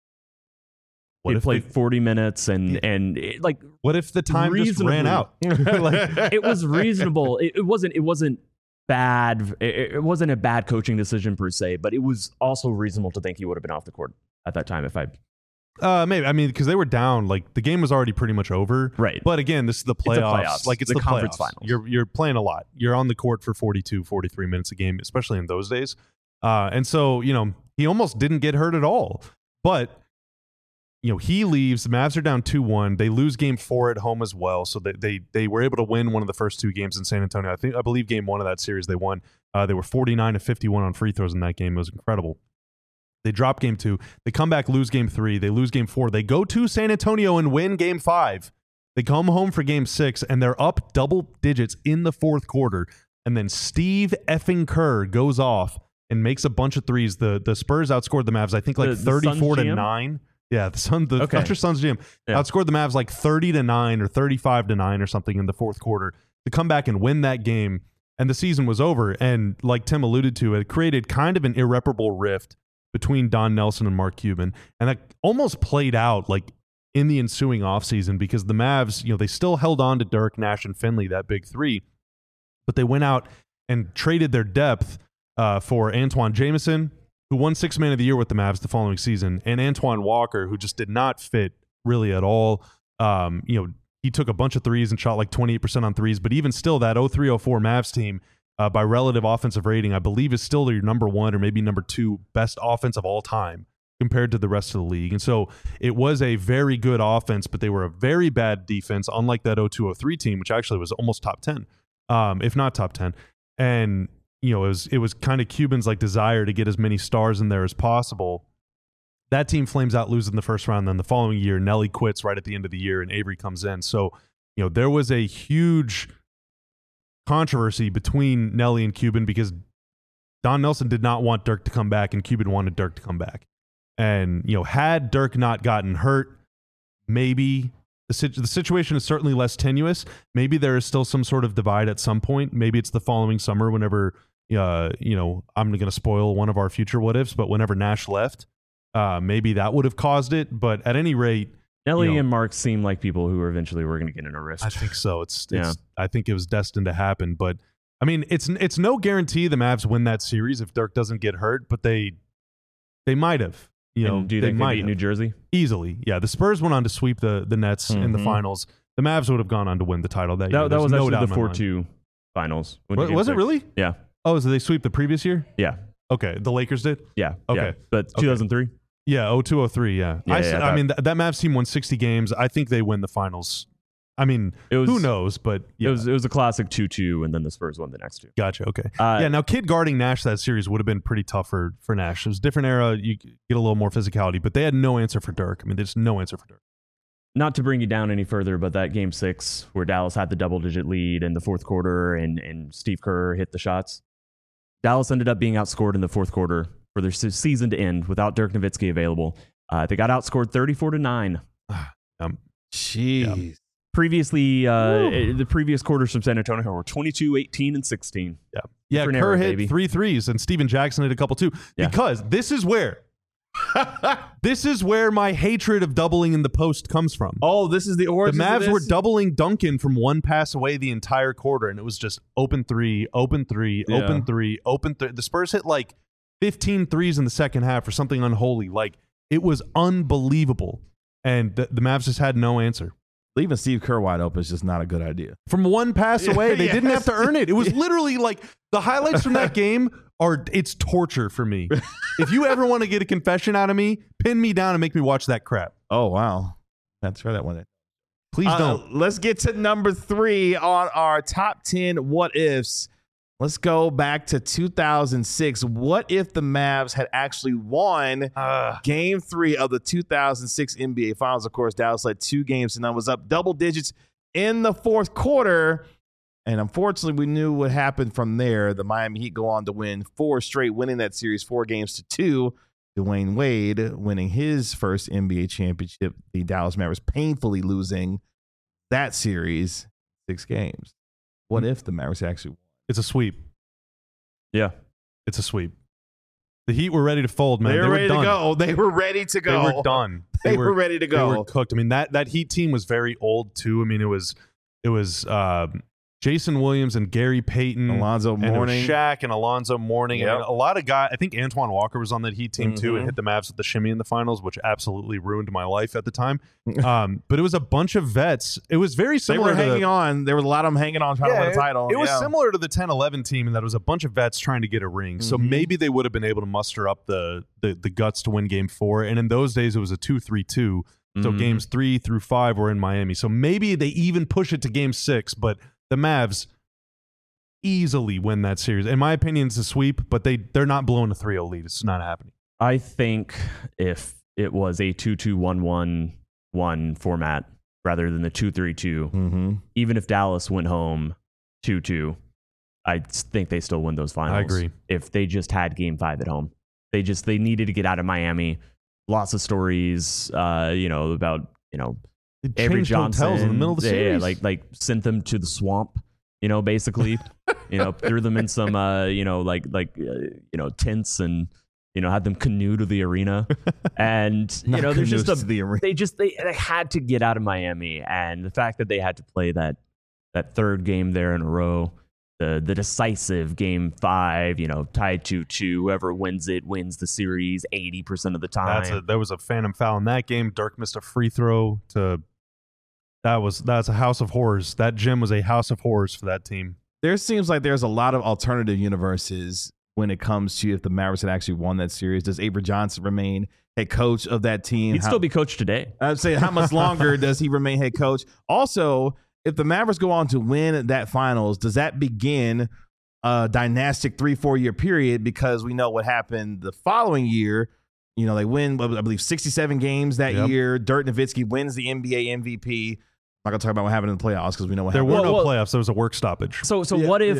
Speaker 2: He played 40 minutes and
Speaker 3: what if the time just ran out?
Speaker 2: It was reasonable. It wasn't bad. It wasn't a bad coaching decision per se, but it was also reasonable to think he would have been off the court at that time if
Speaker 3: maybe because they were down, like the game was already pretty much over.
Speaker 2: Right.
Speaker 3: But again, this is the playoffs. Like it's the
Speaker 2: conference
Speaker 3: playoffs.
Speaker 2: finals.
Speaker 3: You're playing a lot. You're on the court for 42, 43 minutes a game, especially in those days. And so, he almost didn't get hurt at all. But he leaves. The Mavs are down 2-1. They lose game 4 at home as well. So they were able to win one of the first 2 games in San Antonio. I believe game 1 of that series they won. They were 49-51 on free throws in that game. It was incredible. They drop game 2. They come back, lose game 3. They lose game 4. They go to San Antonio and win game 5. They come home for game 6, and they're up double digits in the fourth quarter. And then Steve effing Kerr goes off and makes a bunch of threes. The Spurs outscored the Mavs, I think, like 34-9. Yeah, the Thunder Suns GM outscored the Mavs like 30-9 or 35-9 or something in the fourth quarter. to come back and win that game, and the season was over. And like Tim alluded to, it created kind of an irreparable rift between Don Nelson and Mark Cuban. And that almost played out like in the ensuing offseason, because the Mavs, they still held on to Dirk, Nash, and Finley, that big three, but they went out and traded their depth for Antoine Jameson, who won Sixth Man of the Year with the Mavs the following season, and Antoine Walker, who just did not fit really at all. He took a bunch of threes and shot like 28% on threes, but even still, that 03-04 Mavs team, by relative offensive rating, I believe is still your number one or maybe number two best offense of all time compared to the rest of the league. And so it was a very good offense, but they were a very bad defense, unlike that 02-03 team, which actually was almost top 10, if not top 10. And it was kind of Cuban's like desire to get as many stars in there as possible. That team flames out, losing the first round. Then the following year, Nelly quits right at the end of the year, and Avery comes in. So, there was a huge controversy between Nelly and Cuban, because Don Nelson did not want Dirk to come back, and Cuban wanted Dirk to come back. And, had Dirk not gotten hurt, maybe the situation is certainly less tenuous. Maybe there is still some sort of divide at some point. Maybe it's the following summer whenever, I'm going to spoil one of our future what ifs, but whenever Nash left, maybe that would have caused it. But at any rate,
Speaker 2: Nelly and Mark seem like people who eventually were going to get in a rift.
Speaker 3: I think so. I think it was destined to happen. But I mean, it's no guarantee the Mavs win that series if Dirk doesn't get hurt, but they might have.
Speaker 2: Do you think they beat New Jersey?
Speaker 3: Easily. Yeah. The Spurs went on to sweep the Nets in the finals. The Mavs would have gone on to win the title that year.
Speaker 2: That was actually the 4-2 finals.
Speaker 3: Was it really?
Speaker 2: Yeah.
Speaker 3: Oh, so they sweep the previous year?
Speaker 2: Yeah.
Speaker 3: Okay. The Lakers did?
Speaker 2: Yeah.
Speaker 3: Okay.
Speaker 2: Yeah. But 2003?
Speaker 3: Yeah, 02-03, yeah.
Speaker 2: I
Speaker 3: mean, that Mavs team won 60 games. I think they win the finals. I mean, who knows? But yeah.
Speaker 2: It was a classic 2-2, and then the Spurs won the next two.
Speaker 3: Gotcha, okay. Now Kidd guarding Nash that series would have been pretty tough for Nash. It was a different era. You get a little more physicality, but they had no answer for Dirk. I mean, there's no answer for Dirk.
Speaker 2: Not to bring you down any further, but that game 6 where Dallas had the double-digit lead in the fourth quarter and Steve Kerr hit the shots, Dallas ended up being outscored in the fourth quarter for their season to end without Dirk Nowitzki available. They got outscored 34-9.
Speaker 1: Jeez.
Speaker 3: Yeah.
Speaker 2: Previously, the previous quarters from San Antonio were 22, 18, and 16.
Speaker 3: Yeah, Kerr hit 3 threes, and Steven Jackson hit a couple too.
Speaker 2: Yeah.
Speaker 3: Because this is where my hatred of doubling in the post comes from.
Speaker 1: Oh, this is the origin.
Speaker 3: The
Speaker 1: of
Speaker 3: Mavs
Speaker 1: this?
Speaker 3: were doubling Duncan from one pass away the entire quarter, and it was just open three, open three,
Speaker 1: Yeah.
Speaker 3: open three, open three. The Spurs hit like 15 threes in the second half or something unholy. Like, it was unbelievable. And the Mavs just had no answer.
Speaker 1: Leaving Steve Kerr wide open is just not a good idea.
Speaker 3: From one pass away, they
Speaker 1: Yes.
Speaker 3: didn't have to earn it. It was literally like the highlights from that game it's torture for me. If you ever want to get a confession out of me, pin me down and make me watch that crap.
Speaker 1: Oh, wow. That's right. That one.
Speaker 3: Please don't.
Speaker 1: Let's get to number 3 on our top 10 what ifs. Let's go back to 2006. What if the Mavs had actually won Game 3 of the 2006 NBA Finals? Of course, Dallas led 2 games and was up double digits in the fourth quarter. And unfortunately, we knew what happened from there. The Miami Heat go on to win 4 straight, winning that series 4-2. Dwayne Wade winning his first NBA championship. The Dallas Mavericks painfully losing that series 6 games. What if the Mavericks actually won?
Speaker 3: It's a sweep.
Speaker 2: Yeah.
Speaker 3: It's a sweep. The Heat were ready to fold, man.
Speaker 1: They were ready
Speaker 3: done.
Speaker 1: to go. They were ready to go.
Speaker 3: They were done.
Speaker 1: They were ready to go.
Speaker 3: They were cooked. I mean, that Heat team was very old too. I mean, it was Jason Williams and Gary Payton,
Speaker 1: Alonzo Mourning,
Speaker 3: and Shaq and Alonzo Mourning.
Speaker 1: Yep.
Speaker 3: I mean, a lot of guys. I think Antoine Walker was on that Heat team too, and hit the Mavs with the shimmy in the finals, which absolutely ruined my life at the time. But it was a bunch of vets. It was very
Speaker 1: They
Speaker 3: similar.
Speaker 1: were hanging on. There was a lot of them hanging on trying to win a title.
Speaker 3: It was similar to the 10-11 team in that it was a bunch of vets trying to get a ring. So maybe they would have been able to muster up the guts to win Game 4. And in those days, it was a 2-3-2. So games 3 through 5 were in Miami. So maybe they even push it to Game 6. But the Mavs easily win that series. In my opinion, it's a sweep, but they're not blowing a 3-0 lead. It's not happening.
Speaker 2: I think if it was a 2-2-1-1-1 format rather than the 2-3-2, even if Dallas went home 2-2, I think they still win those finals.
Speaker 3: I agree.
Speaker 2: If they just had Game 5 at home. They needed to get out of Miami. Lots of stories, about,
Speaker 3: They
Speaker 2: Avery
Speaker 3: changed
Speaker 2: Johnson
Speaker 3: hotels in the middle of the series.
Speaker 2: like sent them to the swamp basically, threw them in some, tents and, had them canoe to the arena. And, there's just they had to get out of Miami. And the fact that they had to play that third game there in a row, the decisive game 5, tied 2-2, whoever wins it wins the series 80% of the time.
Speaker 3: There was a phantom foul in that game. Dirk missed a free throw that's a house of horrors. That gym was a house of horrors for that team.
Speaker 1: There seems like there's a lot of alternative universes when it comes to if the Mavericks had actually won that series. Does Avery Johnson remain head coach of that team?
Speaker 2: He'd still be coach today.
Speaker 1: I'd say, how much longer does he remain head coach? Also, if the Mavericks go on to win that finals, does that begin a dynastic 3-4 year period? Because we know what happened the following year. They win, I believe, 67 games that year. Dirk Nowitzki wins the NBA MVP. I'm not gonna talk about what happened in the playoffs because we know what happened.
Speaker 3: There were no playoffs. There was a work stoppage.
Speaker 2: So what if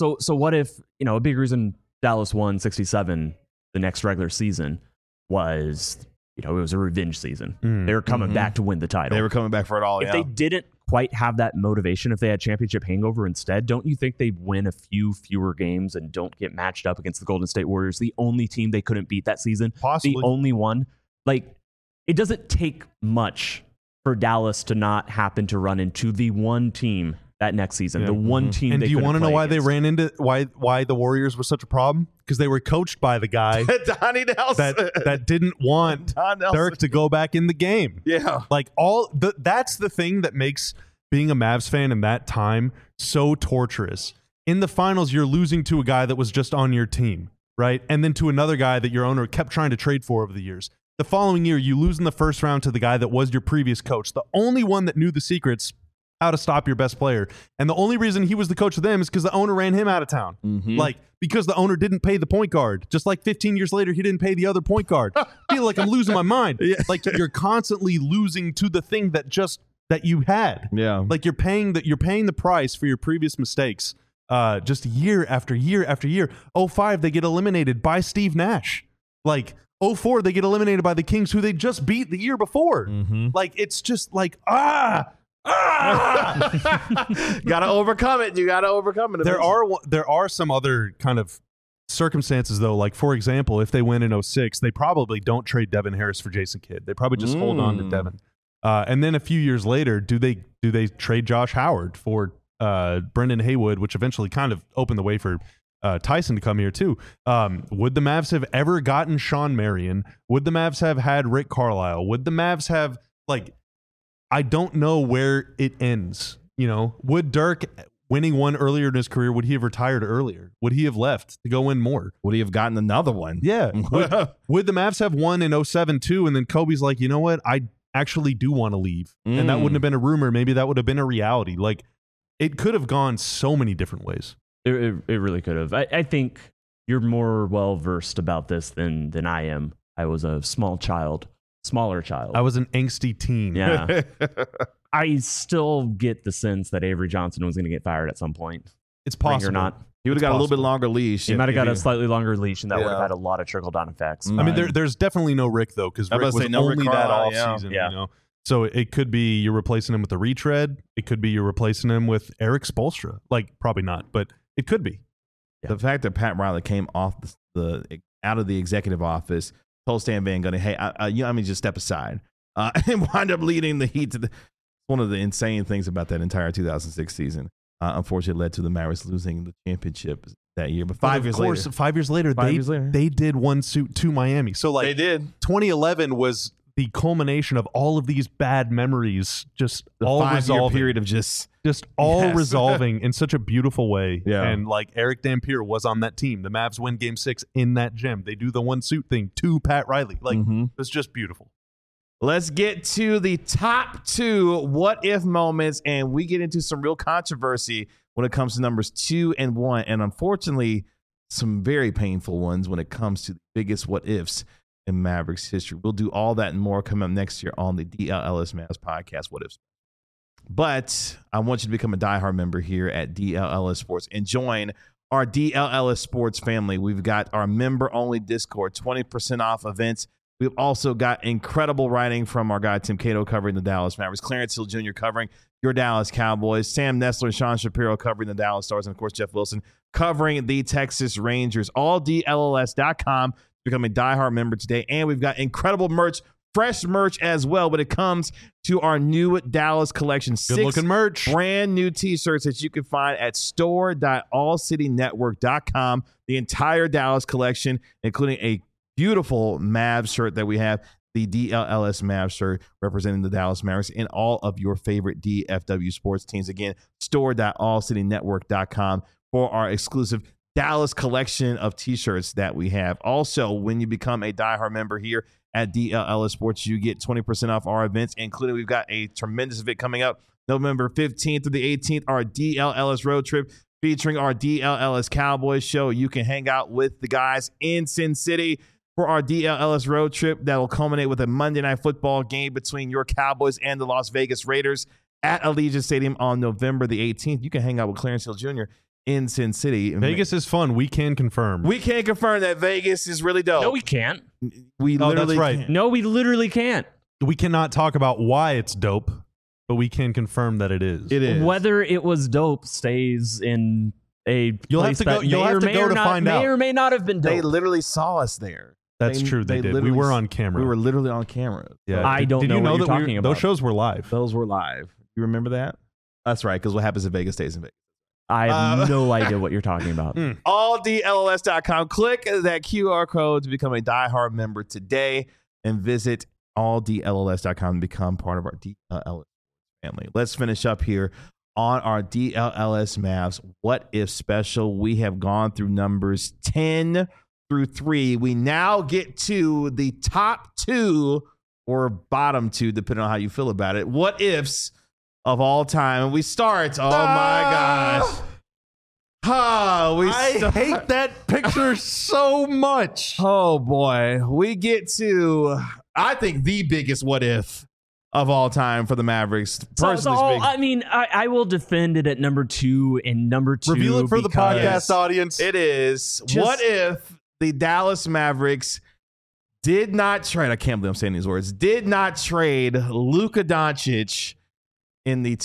Speaker 2: a big reason Dallas won 67 the next regular season was it was a revenge season. They were coming back to win the title.
Speaker 1: They were coming back for it all.
Speaker 2: If they didn't quite have that motivation, if they had championship hangover instead, don't you think they'd win a fewer games and don't get matched up against the Golden State Warriors, the only team they couldn't beat that season?
Speaker 3: Possibly.
Speaker 2: The only one. Like, it doesn't take much for Dallas to not happen to run into the one team that next season, the one team.
Speaker 3: And
Speaker 2: they
Speaker 3: do you want to know why
Speaker 2: against.
Speaker 3: they ran into why the Warriors were such a problem? Because they were coached by the guy
Speaker 1: Donnie Nelson
Speaker 3: that didn't want Dirk to go back in the game.
Speaker 1: Yeah,
Speaker 3: like that's the thing that makes being a Mavs fan in that time so torturous. In the finals, you're losing to a guy that was just on your team, right? And then to another guy that your owner kept trying to trade for over the years. The following year, you lose in the first round to the guy that was your previous coach, the only one that knew the secrets how to stop your best player. And the only reason he was the coach of them is because the owner ran him out of town. Like, because the owner didn't pay the point guard. Just like 15 years later, he didn't pay the other point guard. I feel like I'm losing my mind. Like, you're constantly losing to the thing that you had.
Speaker 1: Yeah.
Speaker 3: Like, you're paying the price for your previous mistakes. Just year after year after year. 2005, they get eliminated by Steve Nash. Like, 2004, they get eliminated by the Kings, who they just beat the year before. Like, it's just like, gotta
Speaker 1: overcome it. You gotta overcome it.
Speaker 3: There are some other kind of circumstances, though. Like, for example, if they win in 2006, they probably don't trade Devin Harris for Jason Kidd. They probably just hold on to Devin. And then a few years later, do they trade Josh Howard for Brendan Haywood, which eventually kind of opened the way for Tyson to come here too. Would the Mavs have ever gotten Sean Marion? Would the Mavs have had Rick Carlisle? Would the Mavs have, I don't know where it ends. Would Dirk, winning one earlier in his career, would he have retired earlier? Would he have left to go win more?
Speaker 1: Would he have gotten another one?
Speaker 3: Yeah. Would the Mavs have won in 2007 too? And then Kobe's like, you know what? I actually do want to leave. And that wouldn't have been a rumor. Maybe that would have been a reality. Like, it could have gone so many different ways.
Speaker 2: It really could have. I think you're more well-versed about this than I am. I was a smaller child.
Speaker 3: I was an angsty teen.
Speaker 2: Yeah. I still get the sense that Avery Johnson was going to get fired at some point.
Speaker 3: It's possible.
Speaker 2: Or not.
Speaker 1: He would have got a little bit longer leash.
Speaker 2: He might have got a slightly longer leash, and that would have had a lot of trickle-down effects.
Speaker 3: I mean, there's definitely no Rick, though, because Rick was only that offseason. So it could be you're replacing him with a retread. It could be you're replacing him with Eric Spoelstra. Like, probably not, but it could be.
Speaker 1: The fact that Pat Riley came off out of the executive office, told Stan Van Gundy, hey, I mean, just step aside, and wind up leading the Heat to one of the insane things about that entire 2006 season. Unfortunately, led to the Mavericks losing the championship that year. But 5 years later,
Speaker 3: they did one suit to Miami. So, like,
Speaker 1: they did.
Speaker 3: 2011 was the culmination of all of these bad memories, just
Speaker 1: the
Speaker 3: all
Speaker 1: 5
Speaker 3: resolving.
Speaker 1: Year period of just
Speaker 3: all resolving in such a beautiful way.
Speaker 1: Yeah.
Speaker 3: And like, Eric Dampier was on that team. The Mavs win Game 6 in that gym. They do the one suit thing to Pat Riley. Like, it's just beautiful.
Speaker 1: Let's get to the top 2 what if moments, and we get into some real controversy when it comes to numbers 2 and 1, and unfortunately, some very painful ones when it comes to the biggest what ifs in Mavericks history. We'll do all that and more coming up next year on the DLLS Mavs podcast, What Ifs. But I want you to become a diehard member here at DLLS Sports and join our DLLS Sports family. We've got our member-only Discord, 20% off events. We've also got incredible writing from our guy Tim Cato covering the Dallas Mavericks, Clarence Hill Jr. covering your Dallas Cowboys. Sam Nessler and Sean Shapiro covering the Dallas Stars, and of course Jeff Wilson covering the Texas Rangers. AllDLLS.com. Become a diehard member today, and we've got incredible merch, fresh merch as well when it comes to our new Dallas collection.
Speaker 3: Good looking merch.
Speaker 1: Brand new t-shirts that you can find at store.allcitynetwork.com. The entire Dallas collection, including a beautiful Mavs shirt that we have, the DLLS Mavs shirt representing the Dallas Mavericks and all of your favorite DFW sports teams. Again, store.allcitynetwork.com for our exclusive Dallas collection of t-shirts that we have. Also, when you become a diehard member here at DLLS Sports, you get 20% off our events, including we've got a tremendous event coming up November 15th through the 18th, our DLLS road trip featuring our DLLS Cowboys show. You can hang out with the guys in Sin City for our DLLS road trip that will culminate with a Monday Night Football game between your Cowboys and the Las Vegas Raiders at Allegiant Stadium on November the 18th. You can hang out with Clarence Hill Jr. in Sin City.
Speaker 3: Vegas is fun. We can confirm.
Speaker 1: We can confirm that Vegas is really dope.
Speaker 2: No, we can't.
Speaker 1: We literally
Speaker 3: that's right.
Speaker 1: can't.
Speaker 2: No, we literally can't.
Speaker 3: We cannot talk about why it's dope, but we can confirm that it is.
Speaker 1: It is.
Speaker 2: Whether it was dope stays in a
Speaker 3: You'll have
Speaker 2: place
Speaker 3: to go-
Speaker 2: that
Speaker 3: you'll
Speaker 2: may
Speaker 3: have
Speaker 2: or
Speaker 3: to
Speaker 2: may
Speaker 3: go
Speaker 2: or
Speaker 3: to
Speaker 2: not,
Speaker 3: find out.
Speaker 2: may or may not have been dope.
Speaker 1: They literally saw us there.
Speaker 3: That's true. They did. We
Speaker 1: literally
Speaker 3: were on camera.
Speaker 1: We were literally on camera.
Speaker 3: Yeah.
Speaker 2: I don't
Speaker 3: Did
Speaker 2: know
Speaker 3: you
Speaker 2: what
Speaker 3: know
Speaker 2: you're
Speaker 3: that
Speaker 2: talking about.
Speaker 3: Those shows were live.
Speaker 1: Those were live. You remember that? That's right, because what happens in Vegas stays in Vegas.
Speaker 2: I have no idea what you're talking about.
Speaker 1: AllDLLS.com. Click that QR code to become a diehard member today and visit AllDLLS.com to become part of our DLLS family. Let's finish up here on our DLLS Mavs What If special. We have gone through numbers 10 through 3. We now get to the top 2 or bottom 2, depending on how you feel about it. What ifs of all time. And we start. Oh my gosh.
Speaker 3: I hate that picture so much.
Speaker 1: Oh boy. We get to, I think, the biggest what if of all time for the Mavericks.
Speaker 2: I mean, I will defend it at number 2 and number 2.
Speaker 3: Reveal it for the
Speaker 2: because
Speaker 3: podcast audience.
Speaker 1: It is. What if the Dallas Mavericks did not trade, I can't believe I'm saying these words, did not trade Luka Doncic in the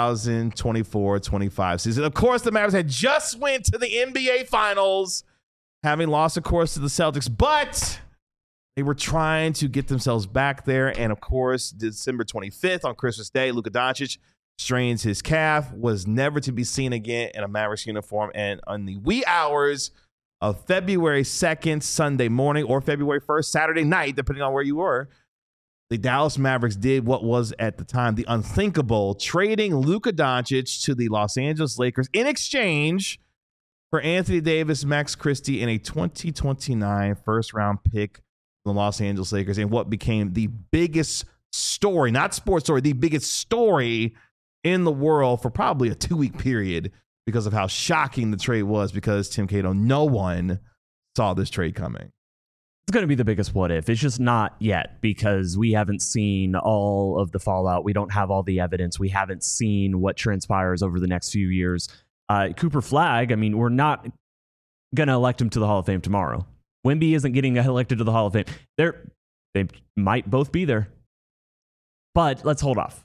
Speaker 1: 2024-25 season. Of course, the Mavericks had just went to the NBA Finals, having lost, of course, to the Celtics, but they were trying to get themselves back there. And, of course, December 25th on Christmas Day, Luka Doncic strains his calf, was never to be seen again in a Mavericks uniform. And on the wee hours of February 2nd, Sunday morning, or February 1st, Saturday night, depending on where you were, the Dallas Mavericks did what was at the time the unthinkable, trading Luka Doncic to the Los Angeles Lakers in exchange for Anthony Davis, Max Christie, and a 2029 first-round pick from the Los Angeles Lakers, and what became the biggest story, not sports story, the biggest story in the world for probably a 2-week period because of how shocking the trade was, because, Tim Cato, no one saw this trade coming.
Speaker 2: It's going to be the biggest what if. It's just not yet because we haven't seen all of the fallout. We don't have all the evidence. We haven't seen what transpires over the next few years. Cooper Flagg, I mean, we're not going to elect him to the Hall of Fame tomorrow. Wemby isn't getting elected to the Hall of Fame. They might both be there. But let's hold off.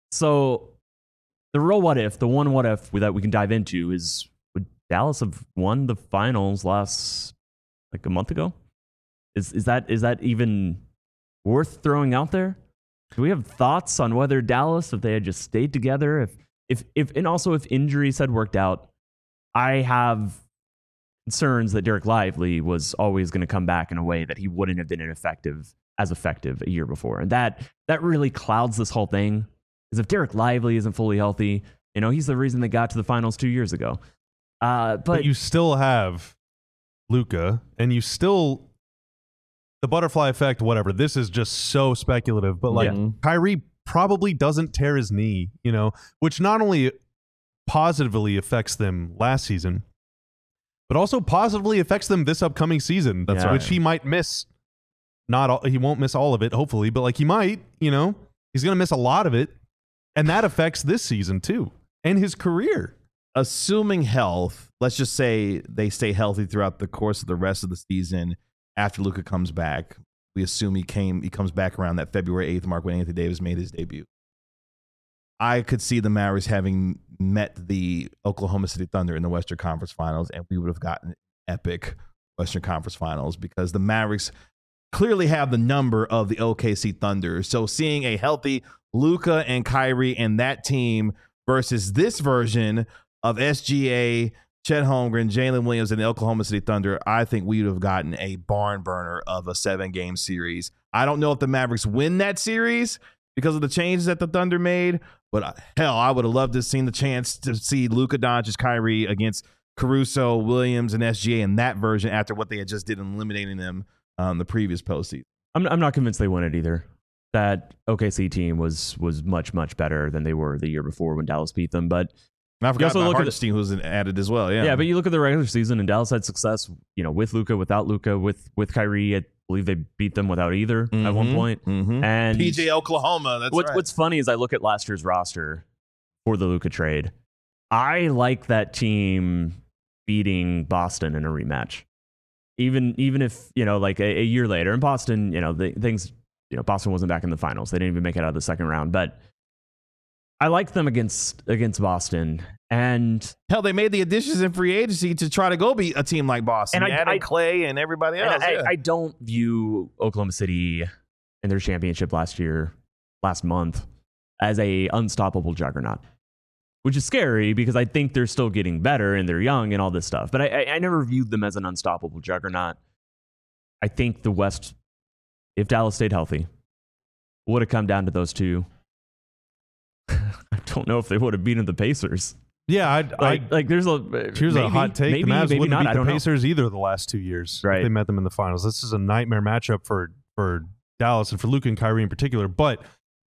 Speaker 2: So the real what if, the one what if that we can dive into is, would Dallas have won the finals last, like, a month ago? Is that even worth throwing out there? Do we have thoughts on whether Dallas, if they had just stayed together, if and also if injuries had worked out? I have concerns that Derek Lively was always going to come back in a way that he wouldn't have been effective a year before, and that really clouds this whole thing. Because if Derek Lively isn't fully healthy, you know, he's the reason they got to the finals 2 years ago. But
Speaker 3: you still have Luka, and you still. The butterfly effect, whatever. This is just so speculative, but like Kyrie probably doesn't tear his knee, you know, which not only positively affects them last season, but also positively affects them this upcoming season.
Speaker 1: That's right.
Speaker 3: Which he might miss. He won't miss all of it, hopefully, but like he might, you know, he's going to miss a lot of it. And that affects this season too, and his career.
Speaker 1: Assuming health, let's just say they stay healthy throughout the course of the rest of the season. After Luka comes back, we assume he comes back around that February 8th mark when Anthony Davis made his debut. I could see the Mavericks having met the Oklahoma City Thunder in the Western Conference Finals, and we would have gotten epic Western Conference Finals because the Mavericks clearly have the number of the OKC Thunder. So seeing a healthy Luka and Kyrie and that team versus this version of SGA, Chet Holmgren, Jalen Williams, and the Oklahoma City Thunder, I think we would have gotten a barn burner of a 7-game series. I don't know if the Mavericks win that series because of the changes that the Thunder made, but hell, I would have loved to have seen the chance to see Luka Doncic, Kyrie against Caruso, Williams, and SGA in that version after what they had just did in eliminating them the previous postseason.
Speaker 2: I'm not convinced they won it either. That OKC team was much, much better than they were the year before when Dallas beat them, but
Speaker 1: and I forgot about Hartenstein, who was added as well.
Speaker 2: Yeah, but you look at the regular season, and Dallas had success, with Luka, without Luka, with Kyrie. I believe they beat them without either at one point.
Speaker 1: Mm-hmm.
Speaker 2: And
Speaker 1: PJ Oklahoma. That's right.
Speaker 2: What's funny is I look at last year's roster for the Luka trade. I like that team beating Boston in a rematch, even if like a year later in Boston, Boston wasn't back in the finals. They didn't even make it out of the second round, but I like them against Boston. And
Speaker 1: hell, they made the additions in free agency to try to go beat a team like Boston. And added Clay and everybody else.
Speaker 2: I don't view Oklahoma City in their championship last month, as a unstoppable juggernaut, which is scary because I think they're still getting better and they're young and all this stuff. But I never viewed them as an unstoppable juggernaut. I think the West, if Dallas stayed healthy, would have come down to those two. I don't know if they would have beaten the Pacers.
Speaker 3: Yeah,
Speaker 2: here's
Speaker 3: a hot take.
Speaker 2: Maybe,
Speaker 3: the Mavs
Speaker 2: maybe
Speaker 3: wouldn't
Speaker 2: not,
Speaker 3: beat the Pacers either the last 2 years.
Speaker 2: Right.
Speaker 3: If they met them in the finals. This is a nightmare matchup for Dallas and for Luka and Kyrie in particular. But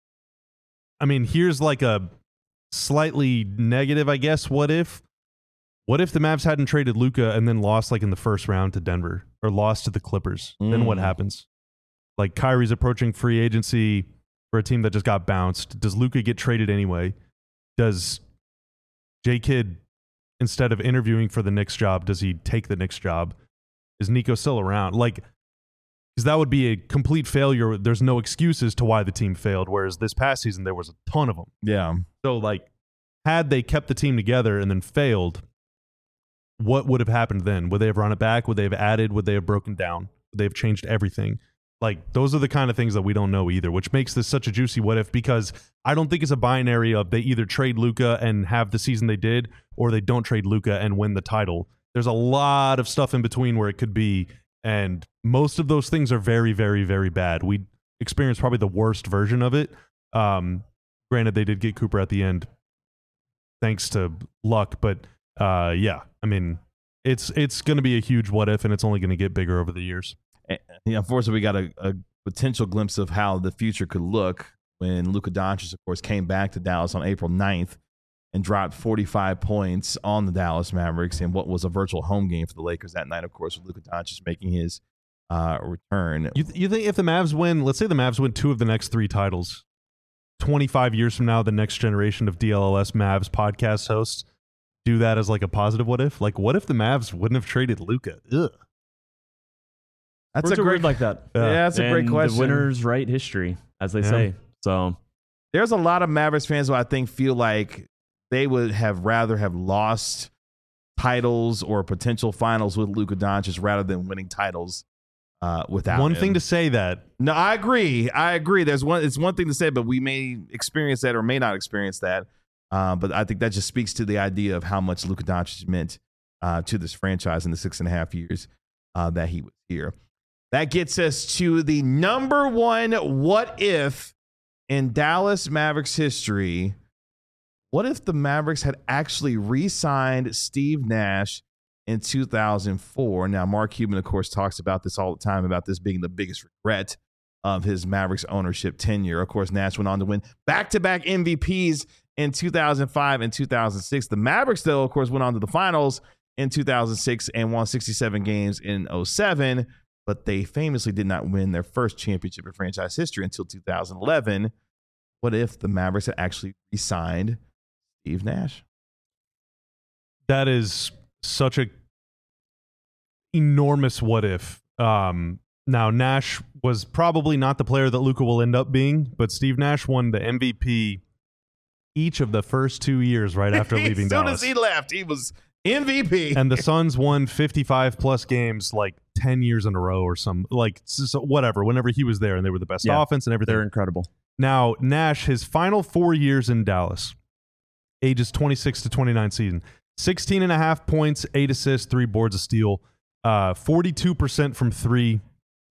Speaker 3: I mean, here's like a slightly negative, I guess. What if the Mavs hadn't traded Luka and then lost like in the first round to Denver or lost to the Clippers? Then what happens? Like Kyrie's approaching free agency for a team that just got bounced. Does Luka get traded anyway? Does J. Kidd, instead of interviewing for the Knicks job, does he take the Knicks job? Is Nico still around? Like, because that would be a complete failure. There's no excuses to why the team failed, whereas this past season there was a ton of them.
Speaker 1: Yeah.
Speaker 3: So, like, had they kept the team together and then failed, what would have happened then? Would they have run it back? Would they have added? Would they have broken down? Would they have changed everything? Like, those are the kind of things that we don't know either, which makes this such a juicy what if, because I don't think it's a binary of they either trade Luka and have the season they did, or they don't trade Luka and win the title. There's a lot of stuff in between where it could be, and most of those things are very, very, very bad. We experienced probably the worst version of it. Granted, they did get Cooper at the end, thanks to luck, but yeah, I mean, it's going to be a huge what if, and it's only going to get bigger over the years.
Speaker 1: Unfortunately, we got a potential glimpse of how the future could look when Luka Doncic, of course, came back to Dallas on April 9th and dropped 45 points on the Dallas Mavericks in what was a virtual home game for the Lakers that night, of course, with Luka Doncic making his return.
Speaker 3: You think if the Mavs win, let's say the Mavs win 2 of the next 3 titles, 25 years from now, the next generation of DLLS Mavs podcast hosts do that as like a positive what if? Like, what if the Mavs wouldn't have traded Luka? Ugh.
Speaker 1: That's
Speaker 2: Words
Speaker 1: a great
Speaker 2: word like that.
Speaker 1: Yeah, that's a great question.
Speaker 2: The winners write history, as they say. So
Speaker 1: there's a lot of Mavericks fans who I think feel like they would have rather have lost titles or potential finals with Luka Doncic rather than winning titles without
Speaker 3: one
Speaker 1: him.
Speaker 3: thing to say that.
Speaker 1: No, I agree. It's one thing to say, but we may experience that or may not experience that. But I think that just speaks to the idea of how much Luka Doncic meant to this franchise in the 6.5 years that he was here. That gets us to the number one what if in Dallas Mavericks history. What if the Mavericks had actually re-signed Steve Nash in 2004? Now, Mark Cuban, of course, talks about this all the time, about this being the biggest regret of his Mavericks ownership tenure. Of course, Nash went on to win back-to-back MVPs in 2005 and 2006. The Mavericks, though, of course, went on to the finals in 2006 and won 67 games in 2007. But they famously did not win their first championship in franchise history until 2011. What if the Mavericks had actually re-signed Steve Nash?
Speaker 3: That is such a enormous what if. Now, Nash was probably not the player that Luka will end up being, but Steve Nash won the MVP each of the first 2 years right after leaving Dallas.
Speaker 1: As soon as he left, he was MVP.
Speaker 3: And the Suns won 55 plus games like 10 years in a row or some, like, so whatever, whenever he was there, and they were the best offense and everything.
Speaker 2: They're incredible.
Speaker 3: Now, Nash, his final 4 years in Dallas, ages 26 to 29 season, 16.5 points, 8 assists, 3 boards of steal, 42% from three.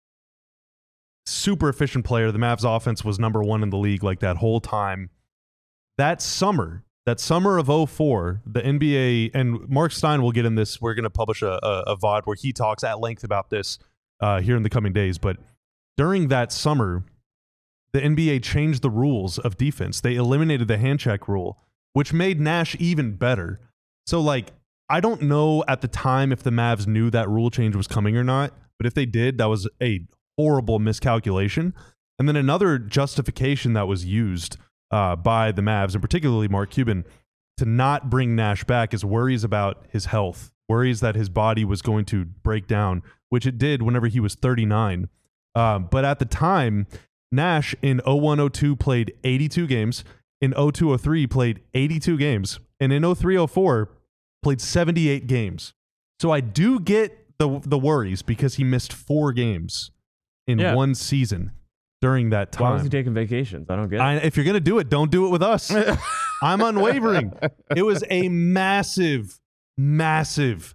Speaker 3: Super efficient player. The Mavs offense was number 1 in the league like that whole time. That summer of 2004, the NBA, and Mark Stein will get in this. We're going to publish a VOD where he talks at length about this here in the coming days. But during that summer, the NBA changed the rules of defense. They eliminated the hand check rule, which made Nash even better. So, like, I don't know at the time if the Mavs knew that rule change was coming or not, but if they did, that was a horrible miscalculation. And then another justification that was used by the Mavs, and particularly Mark Cuban, to not bring Nash back is worries about his health, worries that his body was going to break down, which it did whenever he was 39. But at the time, Nash in 01-02 played 82 games, in 02-03 played 82 games, and in 03-04 played 78 games. So I do get the worries because he missed 4 games in one season during that time.
Speaker 2: Why was he taking vacations? I don't get it.
Speaker 3: If you're going to do it, don't do it with us. I'm unwavering. It was a massive, massive,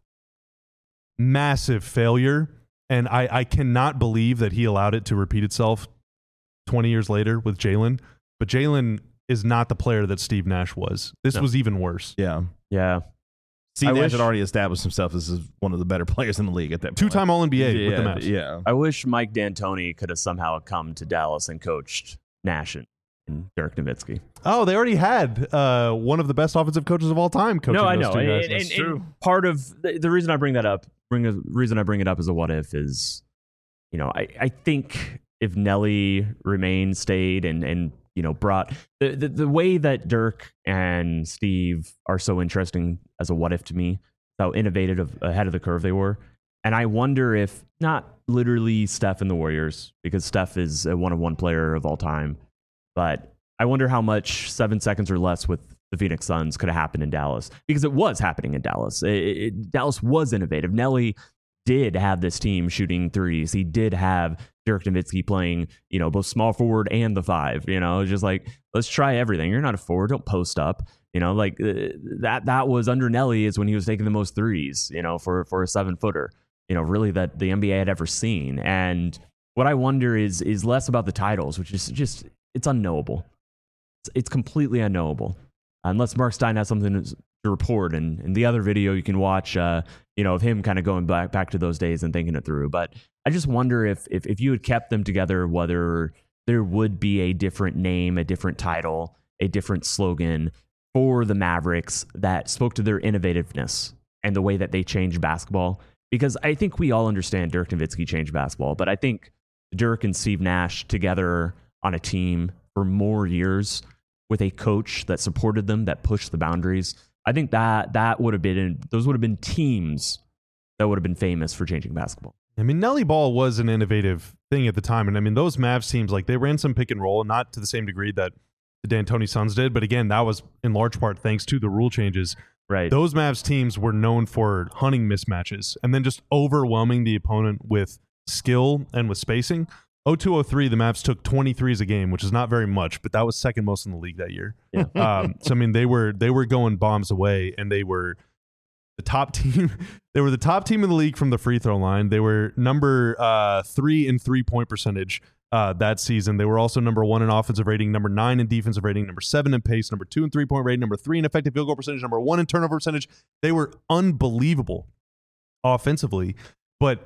Speaker 3: massive failure. And I cannot believe that he allowed it to repeat itself 20 years later with Jalen. But Jalen is not the player that Steve Nash was. This was even worse.
Speaker 1: Yeah.
Speaker 2: Yeah.
Speaker 1: Steve Nash had already established himself as one of the better players in the league at that point.
Speaker 3: 2-time All-NBA with the Mavs.
Speaker 1: Yeah.
Speaker 2: I wish Mike D'Antoni could have somehow come to Dallas and coached Nash and Dirk Nowitzki.
Speaker 3: Oh, they already had one of the best offensive coaches of all time coaching
Speaker 2: No, I
Speaker 3: those
Speaker 2: know.
Speaker 3: two guys.
Speaker 2: And
Speaker 3: That's true.
Speaker 2: part of the reason I bring that up, reason I bring it up as a what if is, you know, I think if Nelly stayed and you know, brought the way that Dirk and Steve are so interesting as a what if to me, how innovative ahead of the curve they were. And I wonder if not literally Steph and the Warriors, because Steph is a one-of-one player of all time, but I wonder how much 7 seconds or less with the Phoenix Suns could have happened in Dallas, because it was happening in Dallas. Dallas was innovative. Nelly did have this team shooting threes. He did have Dirk Nowitzki playing, you know, both small forward and the 5. You know, just like, let's try everything. You're not a forward, don't post up. You know, like that was under Nelly is when he was taking the most threes, you know, for a 7-footer, you know, really that the NBA had ever seen. And what I wonder is less about the titles, which is just, it's unknowable. It's completely unknowable. Unless Mark Stein has something to report. And in the other video you can watch, you know, of him kind of going back to those days and thinking it through. But I just wonder if you had kept them together, whether there would be a different name, a different title, a different slogan for the Mavericks that spoke to their innovativeness and the way that they changed basketball. Because I think we all understand Dirk Nowitzki changed basketball, but I think Dirk and Steve Nash together on a team for more years with a coach that supported them, that pushed the boundaries, I think that would have been, those would have been teams that would have been famous for changing basketball.
Speaker 3: I mean, Nelly Ball was an innovative thing at the time. And I mean, those Mavs teams, like, they ran some pick and roll, not to the same degree that the D'Antoni Suns did. But again, that was in large part thanks to the rule changes.
Speaker 2: Right.
Speaker 3: Those Mavs teams were known for hunting mismatches and then just overwhelming the opponent with skill and with spacing. 02-03, the Mavs took 23s a game, which is not very much, but that was second most in the league that year.
Speaker 2: Yeah.
Speaker 3: So I mean, they were going bombs away, and they were the top team. They were the top team in the league from the free throw line. They were number 3 in 3-point percentage that season. They were also number 1 in offensive rating, number 9 in defensive rating, number 7 in pace, number 2 in 3-point rating, number 3 in effective field goal percentage, number 1 in turnover percentage. They were unbelievable offensively, but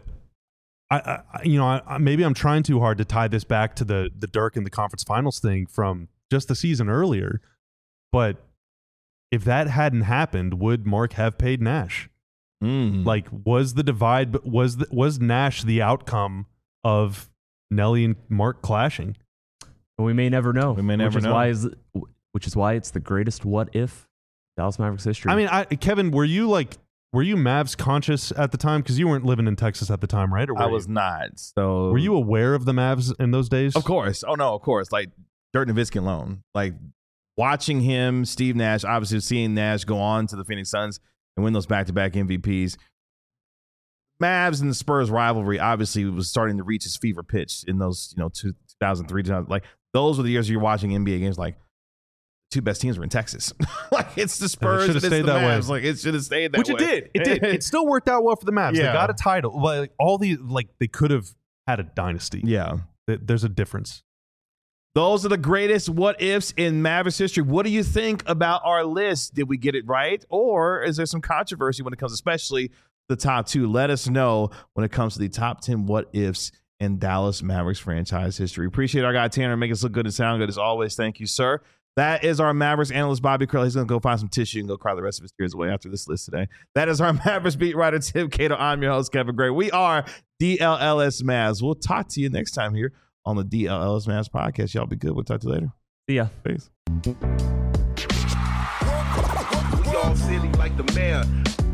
Speaker 3: maybe I'm trying too hard to tie this back to the Dirk and the conference finals thing from just the season earlier. But if that hadn't happened, would Mark have paid Nash? Like, was the divide, was Nash the outcome of Nelly and Mark clashing?
Speaker 2: We may never know.
Speaker 1: We may never know.
Speaker 2: Which is why it's the greatest what if Dallas Mavericks history.
Speaker 3: I mean, Kevin, were you Mavs conscious at the time? Because you weren't living in Texas at the time, right? Or
Speaker 1: I was not. So
Speaker 3: were you aware of the Mavs in those days?
Speaker 1: Of course. Oh no, of course. Like Dirk Nowitzki alone. Like watching him, Steve Nash, obviously seeing Nash go on to the Phoenix Suns and win those back-to-back MVPs. Mavs and the Spurs rivalry obviously was starting to reach its fever pitch in those, 2003, 2000. Like, those were the years you're watching NBA games. Like, two best teams were in Texas. Like, it's the Spurs and it's the Mavs. Like, it should have stayed that way.
Speaker 3: Which it did. It still worked out well for the Mavs.
Speaker 1: Yeah.
Speaker 3: They got a title. Like, they could have had a dynasty.
Speaker 1: Yeah.
Speaker 3: There's a difference.
Speaker 1: Those are the greatest what ifs in Mavericks history. What do you think about our list? Did we get it right? Or is there some controversy when it comes, especially the top two? Let us know when it comes to the top 10 what ifs in Dallas Mavericks franchise history. Appreciate our guy Tanner. Make us look good and sound good as always. Thank you, sir. That is our Mavericks analyst, Bobby Curl. He's going to go find some tissue and go cry the rest of his tears away after this list today. That is our Mavericks beat writer, Tim Cato. I'm your host, Kevin Gray. We are DLLS Mavs. We'll talk to you next time here on the DLLS Mavs podcast. Y'all be good. We'll talk to you later.
Speaker 2: See ya.
Speaker 1: Peace.
Speaker 4: We all silly like the mayor.